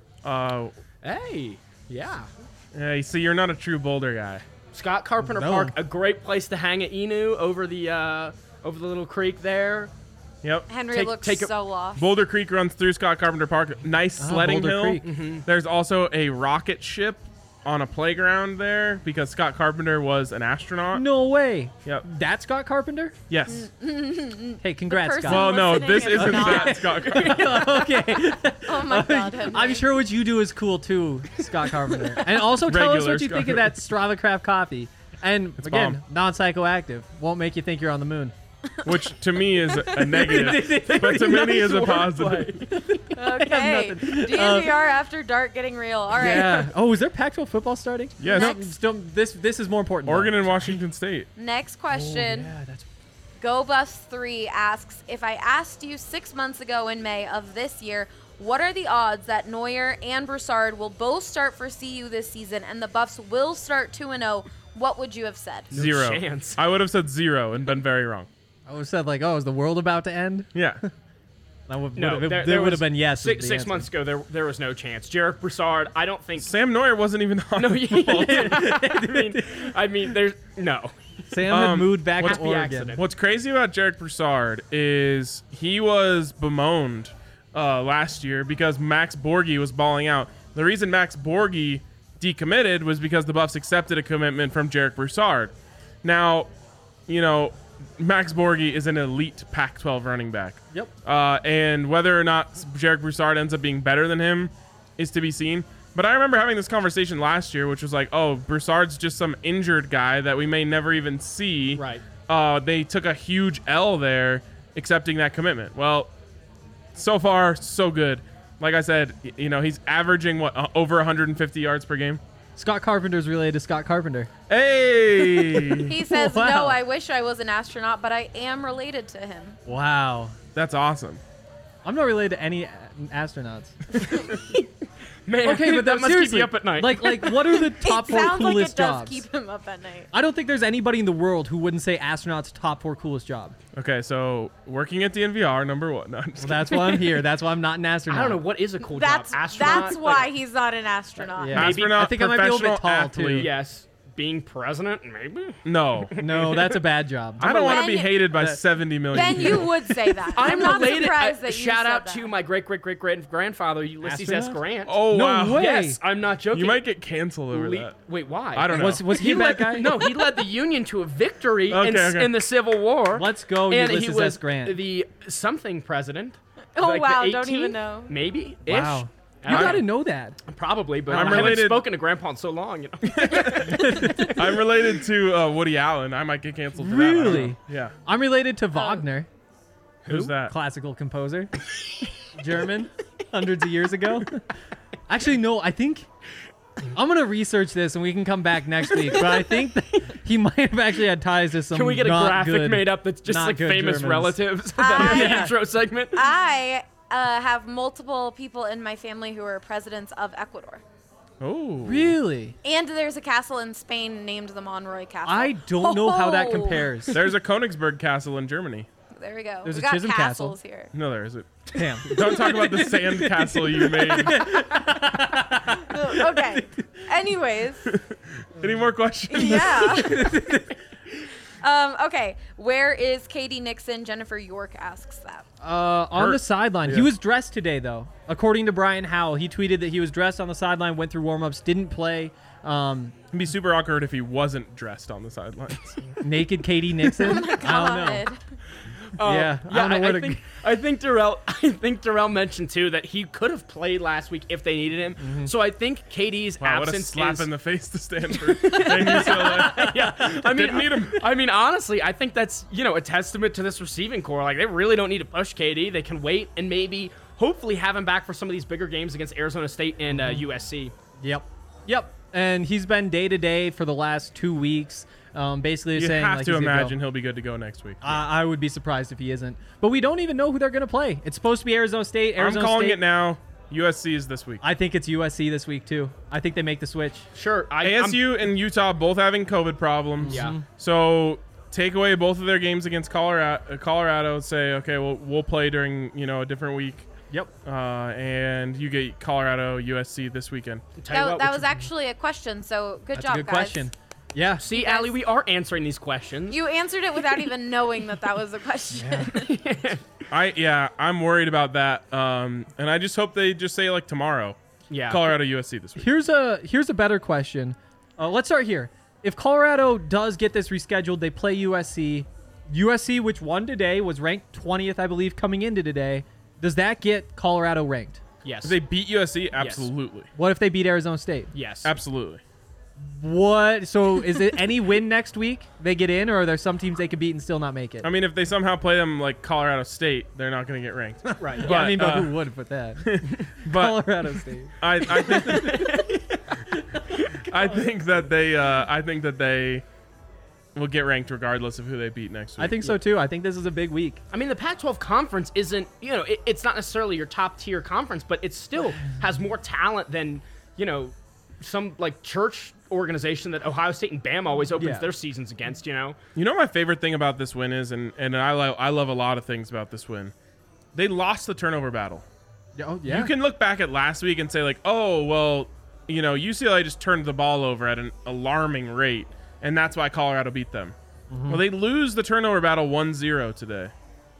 Uh, Hey, yeah. yeah, you see, you're not a true Boulder guy. Scott Carpenter No. Park, a great place to hang at Inu over the uh, over the little creek there. Yep. Henry Take- looks take a- so lost. Boulder Creek runs through Scott Carpenter Park. Nice Oh, sledding Boulder hill. Creek. Mm-hmm. There's also a rocket ship on a playground there because Scott Carpenter was an astronaut. No way. Yep. That's Scott Carpenter? Yes. Hey, congrats, person- Scott. Well, no, listening this is isn't not. that Scott Carpenter. okay. Oh my God, Henry. I'm sure what you do is cool too, Scott Carpenter. And also tell us Regular what you Scott think of that Strava Craft coffee. And It's again, bomb. non-psychoactive. Won't make you think you're on the moon. Which to me is a negative, but to many is a positive. Okay. nothing. D N V R after dark getting real. All right. Yeah. Oh, is there Pac twelve football starting? Yes. No, still, this this is more important. though. Oregon and Washington State. Next Oh, question. yeah, that's Go Buffs three asks, if I asked you six months ago in May of this year, what are the odds that Neuer and Broussard will both start for C U this season and the Buffs will start two and oh, what would you have said? Zero. chance. I would have said zero and been very wrong. I would have said like, oh, is the world about to end? Yeah. That would, No, would, there, there, there would was- have been yes. is Six, the six answer. months ago, there there was no chance. Jarek Broussard, I don't think. Sam Neuer wasn't even on No, the football team. I mean, I mean, there's no. Sam had Um, moved back what's to the Oregon. accident? What's crazy about Jarek Broussard is he was bemoaned uh, last year because Max Borghi was balling out. The reason Max Borghi decommitted was because the Buffs accepted a commitment from Jarek Broussard. Now, you know, Max Borghi is an elite Pac twelve running back. Yep. Uh, and whether or not Jarek Broussard ends up being better than him is to be seen. But I remember having this conversation last year, which was like, oh, Broussard's just some injured guy that we may never even see. Right. Uh, they took a huge L there accepting that commitment. Well, so far, so good. Like I said, y- you know, he's averaging, what, uh, over one hundred fifty yards per game? Scott Carpenter's related to Scott Carpenter. Hey! He says, Wow. no, I wish I was an astronaut, but I am related to him. Wow. That's awesome. I'm not related to any a- astronauts. Man, Okay, but that must seriously, keep you up at night. Like, like, what are the top it four sounds like coolest it does jobs? keep him up at night. I don't think there's anybody in the world who wouldn't say astronauts top four coolest job. Okay, so working at the N V R, number one. No, I'm just Well, that's why I'm here. That's why I'm not an astronaut. I don't know what is a cool That's job. Astronaut. that's why Like, he's not an astronaut. Yeah. Maybe- astronaut, I think I might be a little bit professional tall, too. athlete. yes, being president, maybe. No. No, that's a bad job. I don't want to Ben- be hated by That- seventy million Ben, people. you would say that. I'm, I'm not related. surprised uh, that you shout said out that. to my great great great great grandfather Ulysses S. Astronaut? Grant. Oh, No wow. way. yes, I'm not joking. You might get canceled over Le- that. Wait, why? I don't know. Was, was he, He a bad led, guy? No, he led the Union to a victory Okay, in, okay. in the Civil War. Let's go, and Ulysses he was S. Grant. the something president. Oh, like the wow, don't even eighteenth, know. Maybe. Wow. Ish. You I- gotta know that. Probably, but I'm I haven't related- spoken to Grandpa in so long. You know. I'm related to uh, Woody Allen. I might get canceled for that. I don't Really? know. Yeah. I'm related to Wagner, Who's that? classical composer, German, hundreds of years ago. Actually, no, I think I'm gonna research this and we can come back next week. But I think that he might have actually had ties to some. Can we get a not graphic good, made up that's just not like good famous Germans. relatives that are in the I- intro segment? I uh, have multiple people in my family who are presidents of Ecuador. Oh. Really? And there's a castle in Spain named the Monroy Castle. I don't know how that Oh. compares. There's a Königsberg Castle in Germany. There we go. There's we a got Chisholm Castle. castles here. No, there isn't. Damn. Don't talk about the sand castle you made. Okay. Anyways. Any more questions? Yeah. um, okay. Where is Katie Nixon? Jennifer York asks that. Uh, on Hurt. the sideline. He Yeah. was dressed today, though. According to Brian Howell, he tweeted that he was dressed on the sideline, went through warm-ups, didn't play. Um, It'd be super awkward if he wasn't dressed on the sidelines. naked Katie Nixon. I don't know. God. Uh, Yeah, I yeah. don't know I, where I to- think I think Darrell. I think Darrell mentioned too that he could have played last week if they needed him. Mm-hmm. So I think Katie's Wow, what a absence slap is. in the face to Stanford. And U C L A. yeah, I mean, Didn't need him. I mean, honestly, I think that's you know a testament to this receiving core. Like they really don't need to push Katie. They can wait and maybe, hopefully, have him back for some of these bigger games against Arizona State and uh, U S C. Yep. Yep. And he's been day to day for the last two weeks. Um, basically You saying have like to he's good to go. imagine he'll be good to go next week. I, I would be surprised if he isn't. But we don't even know who they're going to play. It's supposed to be Arizona State. Arizona I'm calling State. it now. U S C is this week. I think it's U S C this week too. I think they make the switch. Sure, I, A S U and Utah both having COVID problems. Yeah. Mhm. So take away both of their games against Colorado. Colorado say, okay, well, we'll play during you know a different week. Yep. Uh, and you get Colorado, U S C this weekend. Tell you That, what, that which- was actually a question, so good That's job, a good guys. question. Yeah. See, guys- Allie, we are answering these questions. You answered it without even knowing that that was a question. I yeah, I'm worried about that. Um, and I just hope they just say like tomorrow, yeah. Colorado, U S C this week. Here's a here's a better question. Uh, let's start here. If Colorado does get this rescheduled, they play U S C. U S C, which won today, was ranked twentieth, I believe, coming into today. Does that get Colorado ranked? Yes. If they beat U S C, absolutely, What if they beat Arizona State? yes. absolutely. What? So is it any win next week they get in, or are there some teams they could beat and still not make it? I mean, if they somehow play them like Colorado State, they're not going to get ranked. Right. But, yeah, I mean, but uh, who would put that? but Colorado State. I, I think I think that they uh, I think that they will get ranked regardless of who they beat next week. I think so too. I think this is a big week. I mean, the Pac twelve conference isn't, you know, it, it's not necessarily your top tier conference, but it still has more talent than, you know, some like church organization that Ohio State and Bama always opens Yeah. their seasons against, you know? You know what my favorite thing about this win is, and, and I, lo- I love a lot of things about this win. They lost the turnover battle. Oh yeah. You can look back at last week and say like, oh, well, you know, U C L A just turned the ball over at an alarming rate, and that's why Colorado beat them. Mm-hmm. Well, they lose the turnover battle one zero today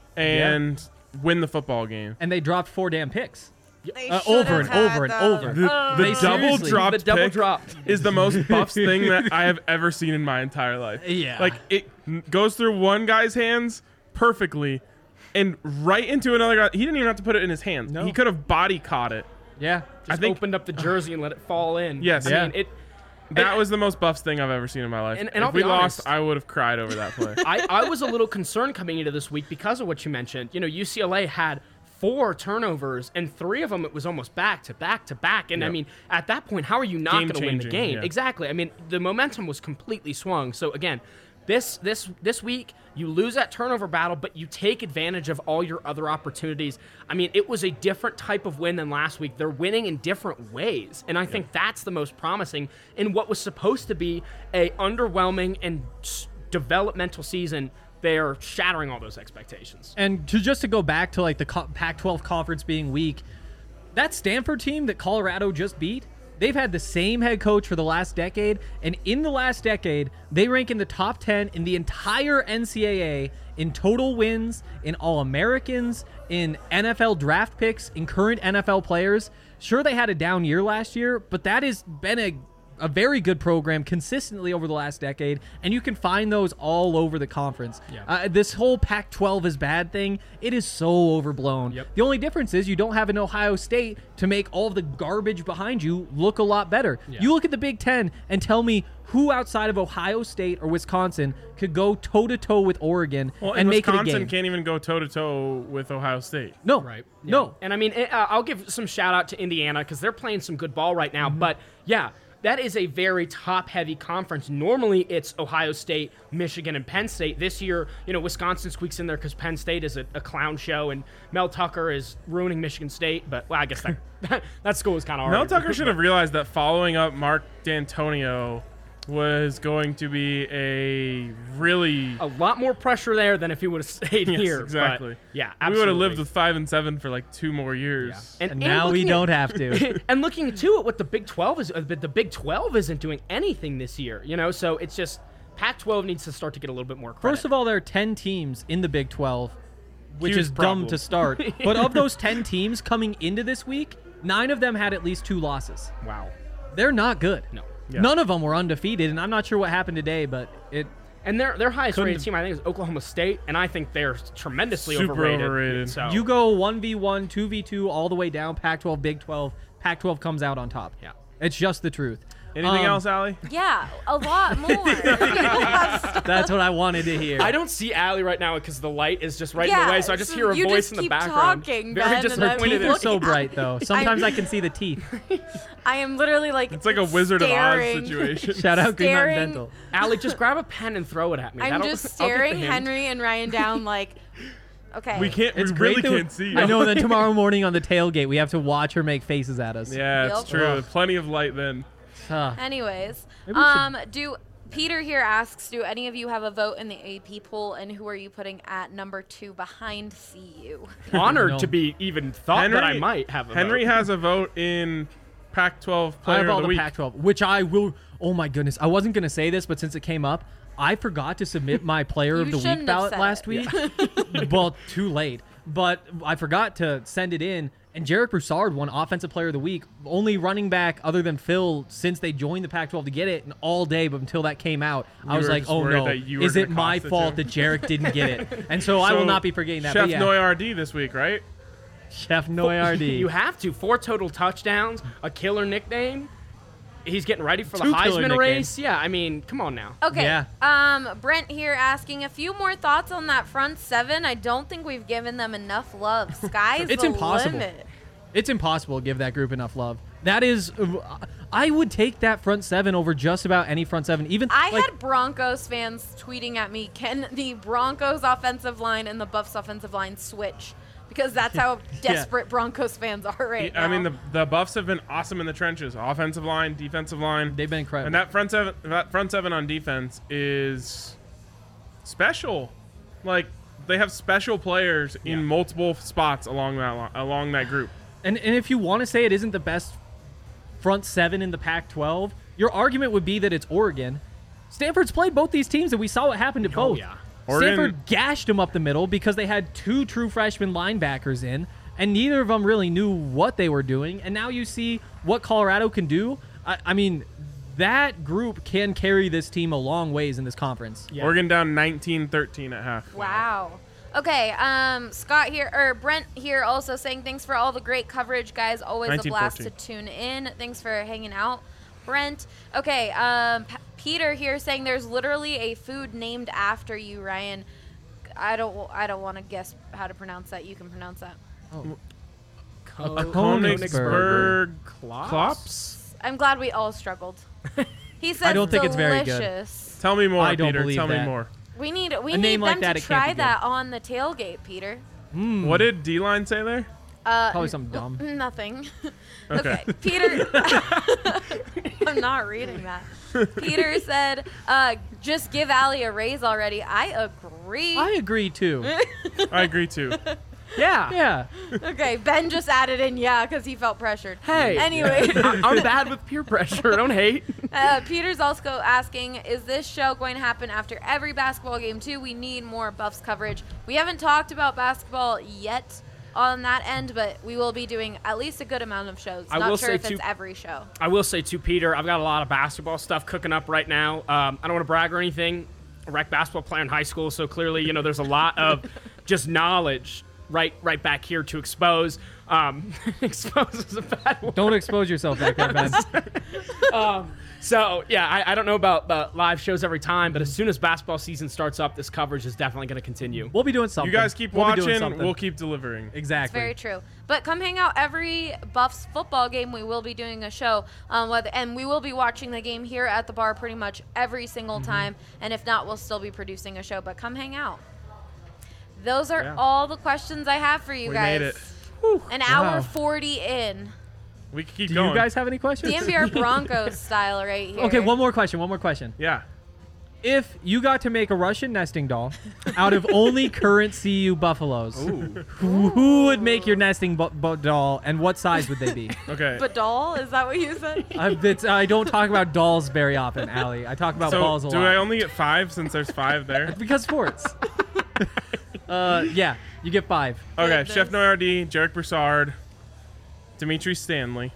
and win the football game. and they dropped four damn picks. They Uh, should over have and had over and them. over. The, Oh. the They double seriously- dropped The double pick dropped. is the most buffs thing that I have ever seen in my entire life. Yeah. Like, it n- goes through one guy's hands perfectly and right into another guy. He didn't even have to put it in his hands. No. He could have body caught it. Yeah. I Just think opened up the jersey and let it fall in. Yes. I Yeah. mean, it, that and- was the most buffs thing I've ever seen in my life. And- and if I'll we be lost, honest. I would have cried over that play. I, I was a little concerned coming into this week because of what you mentioned. You know, U C L A had four turnovers, and three of them it was almost back to back to back. And I Yep. mean, at that point, how are you not Game going to win the changing, game? yeah. Exactly. I mean, the momentum was completely swung. So again, this this this week you lose that turnover battle, but you take advantage of all your other opportunities. I mean, it was a different type of win than last week. They're winning in different ways, and I think that's the most promising in what was supposed to be a underwhelming and s- developmental season. They're shattering all those expectations. And to just to go back to like the co- Pac twelve conference being weak, that Stanford team that Colorado just beat, they've had the same head coach for the last decade, and in the last decade, they rank in the top ten in the entire N C double A in total wins, in All-Americans, in N F L draft picks, in current N F L players. Sure, they had a down year last year, but that has been a a very good program consistently over the last decade, and you can find those all over the conference. Yeah. Uh, this whole Pac twelve is bad thing, it is so overblown. Yep. The only difference is you don't have an Ohio State to make all of the garbage behind you look a lot better. Yeah. You look at the Big Ten and tell me who outside of Ohio State or Wisconsin could go toe-to-toe with Oregon Well, and and make Wisconsin it a game. can't even go toe to toe with Ohio State. No. Right. No. And I mean, it, uh, I'll give some shout out to Indiana because they're playing some good ball right now. Mm-hmm. But yeah, that is a very top-heavy conference. Normally, it's Ohio State, Michigan, and Penn State. This year, you know, Wisconsin squeaks in there because Penn State is a, a clown show, and Mel Tucker is ruining Michigan State. But, well, I guess that that school is kind of Mel Tucker should have realized that following up Mark D'Antonio was going to be a really a lot more pressure there than if he would have stayed yes, here. Exactly. But, yeah, absolutely. We would have lived with five and seven for like two more years. Yeah. And, and now we don't at, have to. And looking too at what the Big twelve is, uh, the Big twelve isn't doing anything this year. You know, so it's just Pac twelve needs to start to get a little bit more credit. First of all, there are ten teams in the Big twelve, which Huge is problem. dumb to start. But of those ten teams coming into this week, nine of them had at least two losses. Wow. They're not good. No. Yeah. None of them were undefeated, and I'm not sure what happened today, but it. And their their highest rated Couldn't- team, I think, is Oklahoma State, and I think they're tremendously Super overrated. overrated. So You go one v one, two v two, all the way down, Pac twelve, Big twelve. Pac twelve comes out on top. Yeah. It's just the truth. Anything Um, else, Allie? Yeah, a lot more. That's what I wanted to hear. I don't see Allie right now because the light is just right in Yeah, the way, so I just so hear her you voice just in the keep background. talking, Very Ben, and Her disappointed. teeth in are so looking at bright, though. Sometimes I'm- I can see the teeth. I am literally like It's like a Wizard of Oz staring. situation. Shout out Green Mountain Staring. Dental. Allie, just grab a pen and throw it at me. I'm That'll- just I'll get the staring hint. Henry and Ryan down like, okay. We can't. It's we great really that we- can't see. I know. And then tomorrow morning on the tailgate, we have to watch her make faces at us. Yeah, it's Yep. true. Ugh. Plenty of light then. Huh. Anyways, Maybe we should- um, do Peter here asks, do any of you have a vote in the A P poll, and who are you putting at number two behind C U? Honored No. to be even thought that I might have a Henry vote. has a vote in Pac twelve I Player have all of the the Week. Pac twelve, which I will. Oh my goodness, I wasn't gonna say this, but since it came up, I forgot to submit my Player of You the Week shouldn't have ballot said last it. week. Well, too late. But I forgot to send it in, and Jarek Broussard won Offensive Player of the Week, only running back other than Phil since they joined the Pac twelve to get it, and all day. But until that came out, I You was were like, just oh worried no, that you were is it gonna my cost it fault to that him? Jarek didn't get it? And so, I will So, not be forgetting that. Chef but yeah, Noy R D this week, right? Chef Noy R D. You have to. Four total touchdowns, a killer nickname. He's getting ready for the Two killer Heisman nicknames. race. Yeah, I mean, come on now. Okay. Yeah. Um, Brent here asking a few more thoughts on that front seven. I don't think we've given them enough love. Sky's It's the impossible. limit. It's impossible to give that group enough love. That is, I would take that front seven over just about any front seven. Even I like, had Broncos fans tweeting at me, can the Broncos offensive line and the Buffs offensive line switch? Because that's how desperate Broncos fans are right now. I mean, the the Buffs have been awesome in the trenches, offensive line, defensive line. they've been incredible. And that front seven, that front seven on defense is special. Like they have special players in multiple spots along that li- along that group. And and if you want to say it isn't the best front seven in the Pac twelve, your argument would be that it's Oregon. Stanford's played both these teams, and we saw what happened to Oh, both. yeah. Oregon- Stanford gashed them up the middle because they had two true freshman linebackers in, and neither of them really knew what they were doing. And now you see what Colorado can do. I, I mean, that group can carry this team a long ways in this conference. Yeah. Oregon down nineteen thirteen at half. Wow. Okay, um, Scott here, or Brent here also saying thanks for all the great coverage, guys. Always a blast to tune in. Thanks for hanging out, Brent. Okay, um, P- Peter here saying there's literally a food named after you, Ryan. I don't, I don't want to guess how to pronounce that. You can pronounce that. Co- Königsberg Klops? Klops? I'm glad we all struggled. He says I don't think it's very good. delicious. Tell me more, I don't Peter. believe Tell me that. more. We need, we A need name them like that, to it can't try be good. that on the tailgate, Peter. What did D-line say there? Uh, Probably something dumb. Nothing. Okay. okay, Peter. I'm not reading that. Peter said, uh, "Just give Allie a raise already." I agree. I agree too. I agree too. Yeah. Yeah. Okay, Ben just added in, yeah, because he felt pressured. Hey. Anyway, I- I'm bad with peer pressure. Don't hate. uh, Peter's also asking, is this show going to happen after every basketball game too? We need more Buffs coverage. We haven't talked about basketball yet on that end, but we will be doing at least a good amount of shows. I Not will sure say if too- it's every show. I will say too, Peter, I've got a lot of basketball stuff cooking up right now. Um, I don't want to brag or anything. A rec basketball player in high school, so clearly, you know, there's a lot of just knowledge right right back here to expose. Um, expose is a bad word. Don't expose yourself like that, Ben. So, yeah, I, I don't know about uh, live shows every time, but as soon as basketball season starts up, this coverage is definitely going to continue. We'll be doing something. You guys keep We'll be doing watching. something. We'll keep delivering. Exactly. Very true. But come hang out every Buffs football game. We will be doing a show, um, whether, and we will be watching the game here at the bar pretty much every single Mm-hmm. time. And if not, we'll still be producing a show. But come hang out. Those are Yeah. all the questions I have for you We guys. made it. An Wow. hour forty in. We can keep Do going. you guys have any questions? D M V R Broncos style right here. Okay, one more question. One more question. Yeah. If you got to make a Russian nesting doll out of only current C U Buffaloes, who, who would make your nesting bu- bu- doll, and what size would they be? Okay. But doll, is that what you said? I, it's, I don't talk about dolls very often, Allie. I talk about so balls a do lot. I only get five since there's five there? Because sports. uh, yeah, you get five. Okay. Goodness. Chef Noyardi, Jarek Broussard, Dimitri Stanley,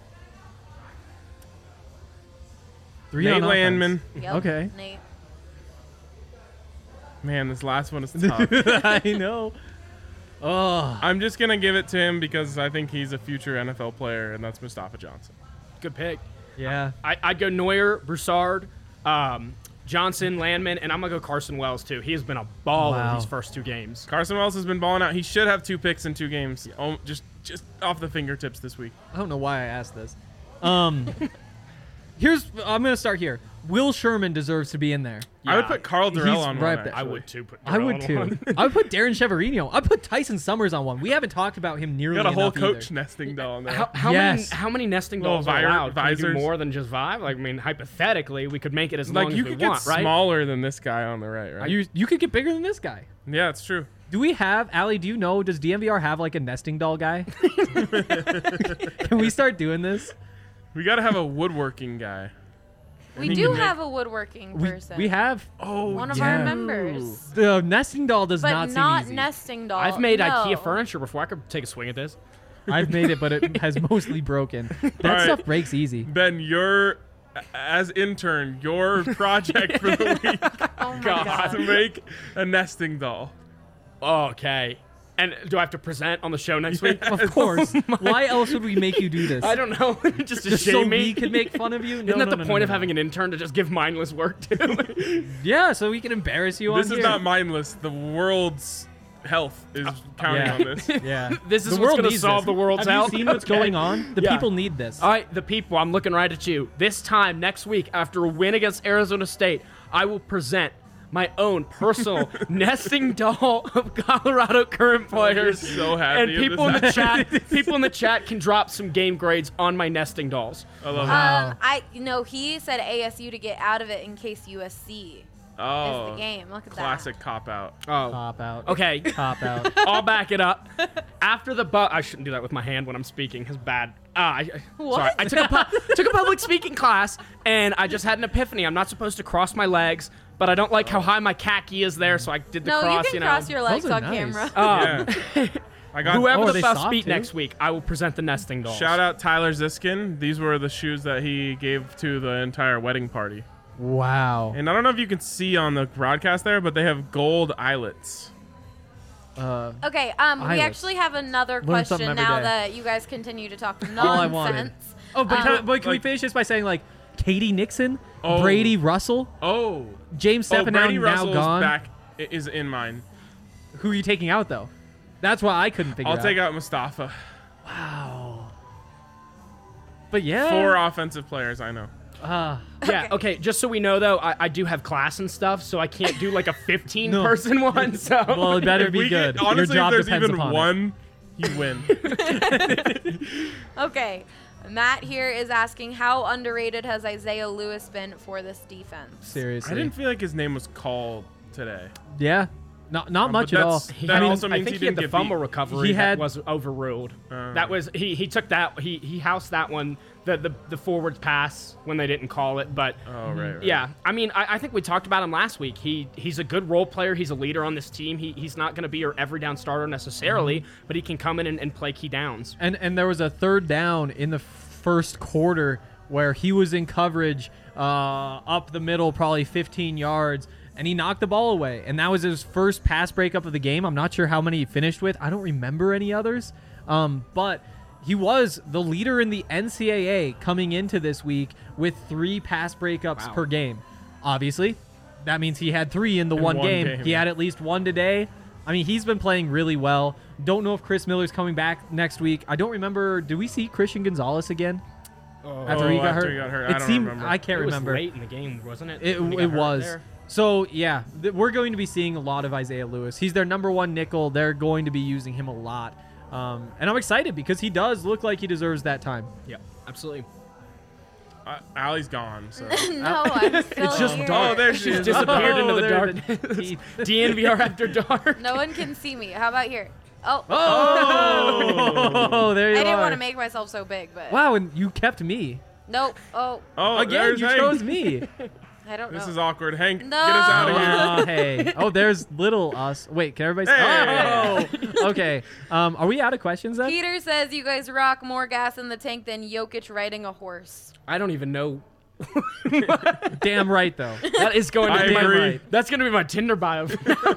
Three Nate on offense. Landman. Yep. Okay. Nate. Man, this last one is tough. I know. Oh, I'm just gonna give it to him because I think he's a future N F L player, and that's Mustafa Johnson. Good pick. yeah. I, I'd go Neuer, Broussard, um, Johnson, Landman, and I'm going to go Carson Wells, too. He has been a baller Wow. these first two games. Carson Wells has been balling out. He should have two picks in two games, oh, just just off the fingertips this week. I don't know why I asked this. Um, here's I'm gonna start here. Will Sherman deserves to be in there. I would Yeah. put Carl He's Durrell on right one. there. I actually. would, too. Put I Darrell would on too. one. I would put Darren Cheverino. I put Tyson Summers on one. We haven't talked about him nearly Got a whole enough coach either. nesting doll in there. How, how Yes. many how many nesting Little dolls are vi- allowed? Can we do visors. more than just five? Like, I mean, hypothetically, we could make it as like long you as we could get want, right? smaller than this guy on the right, right? You you could get bigger than this guy. yeah, it's true. Do we have Allie? Do you know? Does D M V R have like a nesting doll guy? Can we start doing this? We got to have a woodworking guy. We think do you make- have a woodworking We, person. we have. Oh, one of yeah. our members. The nesting doll does But not not, seem easy. nesting doll. I've made no. IKEA furniture before. I could take a swing at this. I've made it, but it has mostly broken. That All right. stuff breaks easy. Ben, your as intern, your project for the week Oh my God. god. to make a nesting doll. Okay. And do I have to present on the show next week? Of course. Why else would we make you do this? I don't know. just to Just shame so me. we could make fun of you? No, Isn't that no, the no, point no, of no. having an intern to just give mindless work to? Yeah, so we can embarrass you This on is here. not mindless. The world's health is counting yeah. on this. Yeah. This is The what's world going to needs solve this. the world's Have health. you seen what's Okay. going on? The Yeah. people need this. All right, the people, I'm looking right at you. This time next week, after a win against Arizona State, I will present my own personal nesting doll of Colorado current players. You're so happy And of people in this. the chat, people in the chat can drop some game grades on my nesting dolls. I love Um, I you know he said A S U to get out of it in case U S C it. Oh, is the game. Look at classic cop out. Oh, Cop out. okay. Cop out. I'll back it up. After the bu- I shouldn't do that with my hand when I'm speaking. It's bad. Ah, I, I- What? Sorry. I took a pu- took a public speaking class, and I just had an epiphany. I'm not supposed to cross my legs, but I don't like how high my khaki is there, so I did the No, cross. you can know. cross your legs Those are on nice. camera. Um, Yeah. I got Whoever Oh, are the they best soft, beat too? next week, I will present the nesting dolls. Shout out Tyler Ziskin. These were the shoes that he gave to the entire wedding party. Wow. And I don't know if you can see on the broadcast there, but they have gold eyelets. Uh, Okay, um, we Eyeless. actually have another Learn something question every now day. that you guys continue to talk All I wanted. nonsense. oh, but, Um, can, but can we like- finish this by saying, like, Katie Nixon, Oh. Brady Russell, Oh. James Oh, Stepanow Brady now Russell's gone? back i- is in mine. Who are you taking out, though? That's what I couldn't figure I'll out. take out Mustafa. Wow. But yeah. Four offensive players, I know. Uh, Yeah, okay, just so we know, though, I, I do have class and stuff, so I can't do like a fifteen No. person one, so... well, it better If be we good. get, honestly, Your job if there's depends even upon it. one, you win. Okay, Matt here is asking how underrated has Isaiah Lewis been for this defense? Seriously. I didn't feel like his name was called today. Yeah. Not not Um, much but at all. that's- He That had- also I means think he he, had didn't the get fumble beat. recovery He that had- was overruled. Uh. that was he. He took that. He he housed that one. The the the forward pass when they didn't call it. But Oh, right, right. yeah, I mean, I, I think we talked about him last week. He he's a good role player. He's a leader on this team. He he's not going to be your every down starter necessarily, Mm-hmm. but he can come in and, and play key downs. And and there was a third down in the first quarter where he was in coverage uh, up the middle, probably fifteen yards, and he knocked the ball away. And that was his first pass breakup of the game. I'm not sure how many he finished with. I don't remember any others. Um, but he was the leader in the N C double A coming into this week with three pass breakups Wow. per game. Obviously, that means he had three in the In one, one game. game. He had at least one today. I mean, he's been playing really well. Don't know if Chris Miller's coming back next week. I don't remember. Did we see Christian Gonzalez again after Oh, he got after hurt? he got hurt. I It don't seemed remember. I can't It was remember. late in the game, wasn't it? It, when he got it hurt was. there? So, yeah, th- we're going to be seeing a lot of Isaiah Lewis. He's their number one nickel. They're going to be using him a lot. Um, and I'm excited because he does look like he deserves that time. Yeah, absolutely. Uh, Allie's gone. So. No, I'm still It's just here. Oh, there she She's is. disappeared into Oh, the there dark. the teeth. D N V R after dark. No one can see me. How about here? Oh, Oh, there you I are. didn't want to make myself so big, but Wow, and you kept me. nope. Oh, Oh, Again, there's you Hank. chose me. I don't This know. is awkward. Hank, No. get us out of here. Oh, hey. Oh, there's little us. Wait, can everybody Hey. Oh, okay. Um, are we out of questions then? Peter says you guys rock more gas in the tank than Jokic riding a horse. I don't even know. Damn right, though. That is going to I be agree. my, that's going to be my Tinder bio.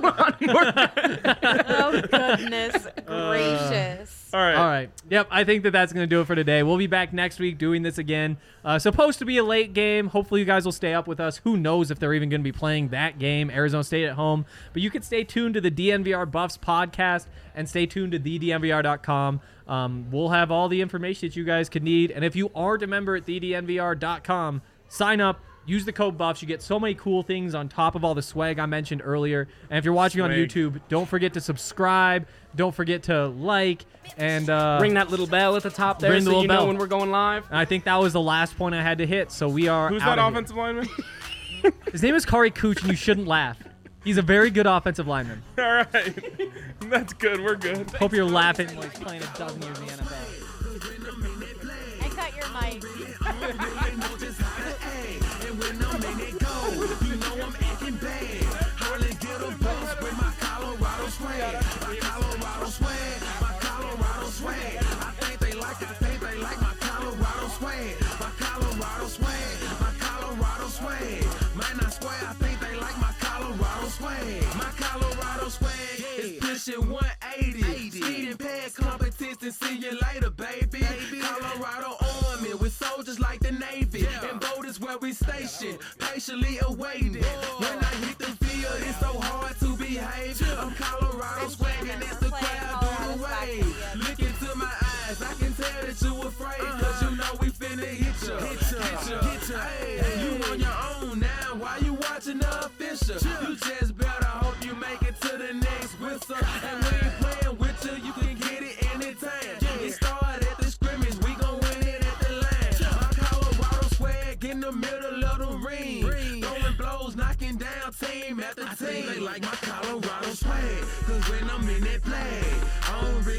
Oh goodness gracious. All right. All right. Yep. I think that that's going to do it for today. We'll be back next week doing this again. Uh, supposed to be a late game. Hopefully, you guys will stay up with us. Who knows if they're even going to be playing that game, Arizona State at home. But you can stay tuned to the D N V R Buffs podcast and stay tuned to the D N V R dot com. Um, we'll have all the information that you guys could need. And if you aren't a member at the D N V R dot com, sign up. Use the code BUFFS. You get so many cool things on top of all the swag I mentioned earlier. And if you're watching on Swag. YouTube, don't forget to subscribe. Don't forget to like. And uh, Ring that little bell at the top there Ring the so little you know bell. when we're going live. And I think that was the last point I had to hit. So we are Who's out that of here. offensive lineman? His name is Kari Cooch, and you shouldn't laugh. He's a very good offensive lineman. All right. That's good. We're good. Hope you're laughing while he's playing a dozen years in the N F L. I cut your mic. one eighty. Speed and pad competition. See you later, baby. Colorado Army with soldiers like the Navy. And boat is where we station, patiently awaiting. When I hit the field, it's so hard to behave. I'm Colorado swag and it's the crowd on the way. Look into my eyes, I can tell that you afraid. Cause you know we finna hit ya. Hit ya, hit ya. Hey, you on your own now. Why you watching the official? You just better hope you make it to the next whistle. And we ain't playing with you, you can get it anytime. It started at the scrimmage, we gon' win it at the line. My Colorado swag in the middle of the ring. Throwing blows, knocking down team after team. They like my Colorado swag, cause when I'm in that play, I don't really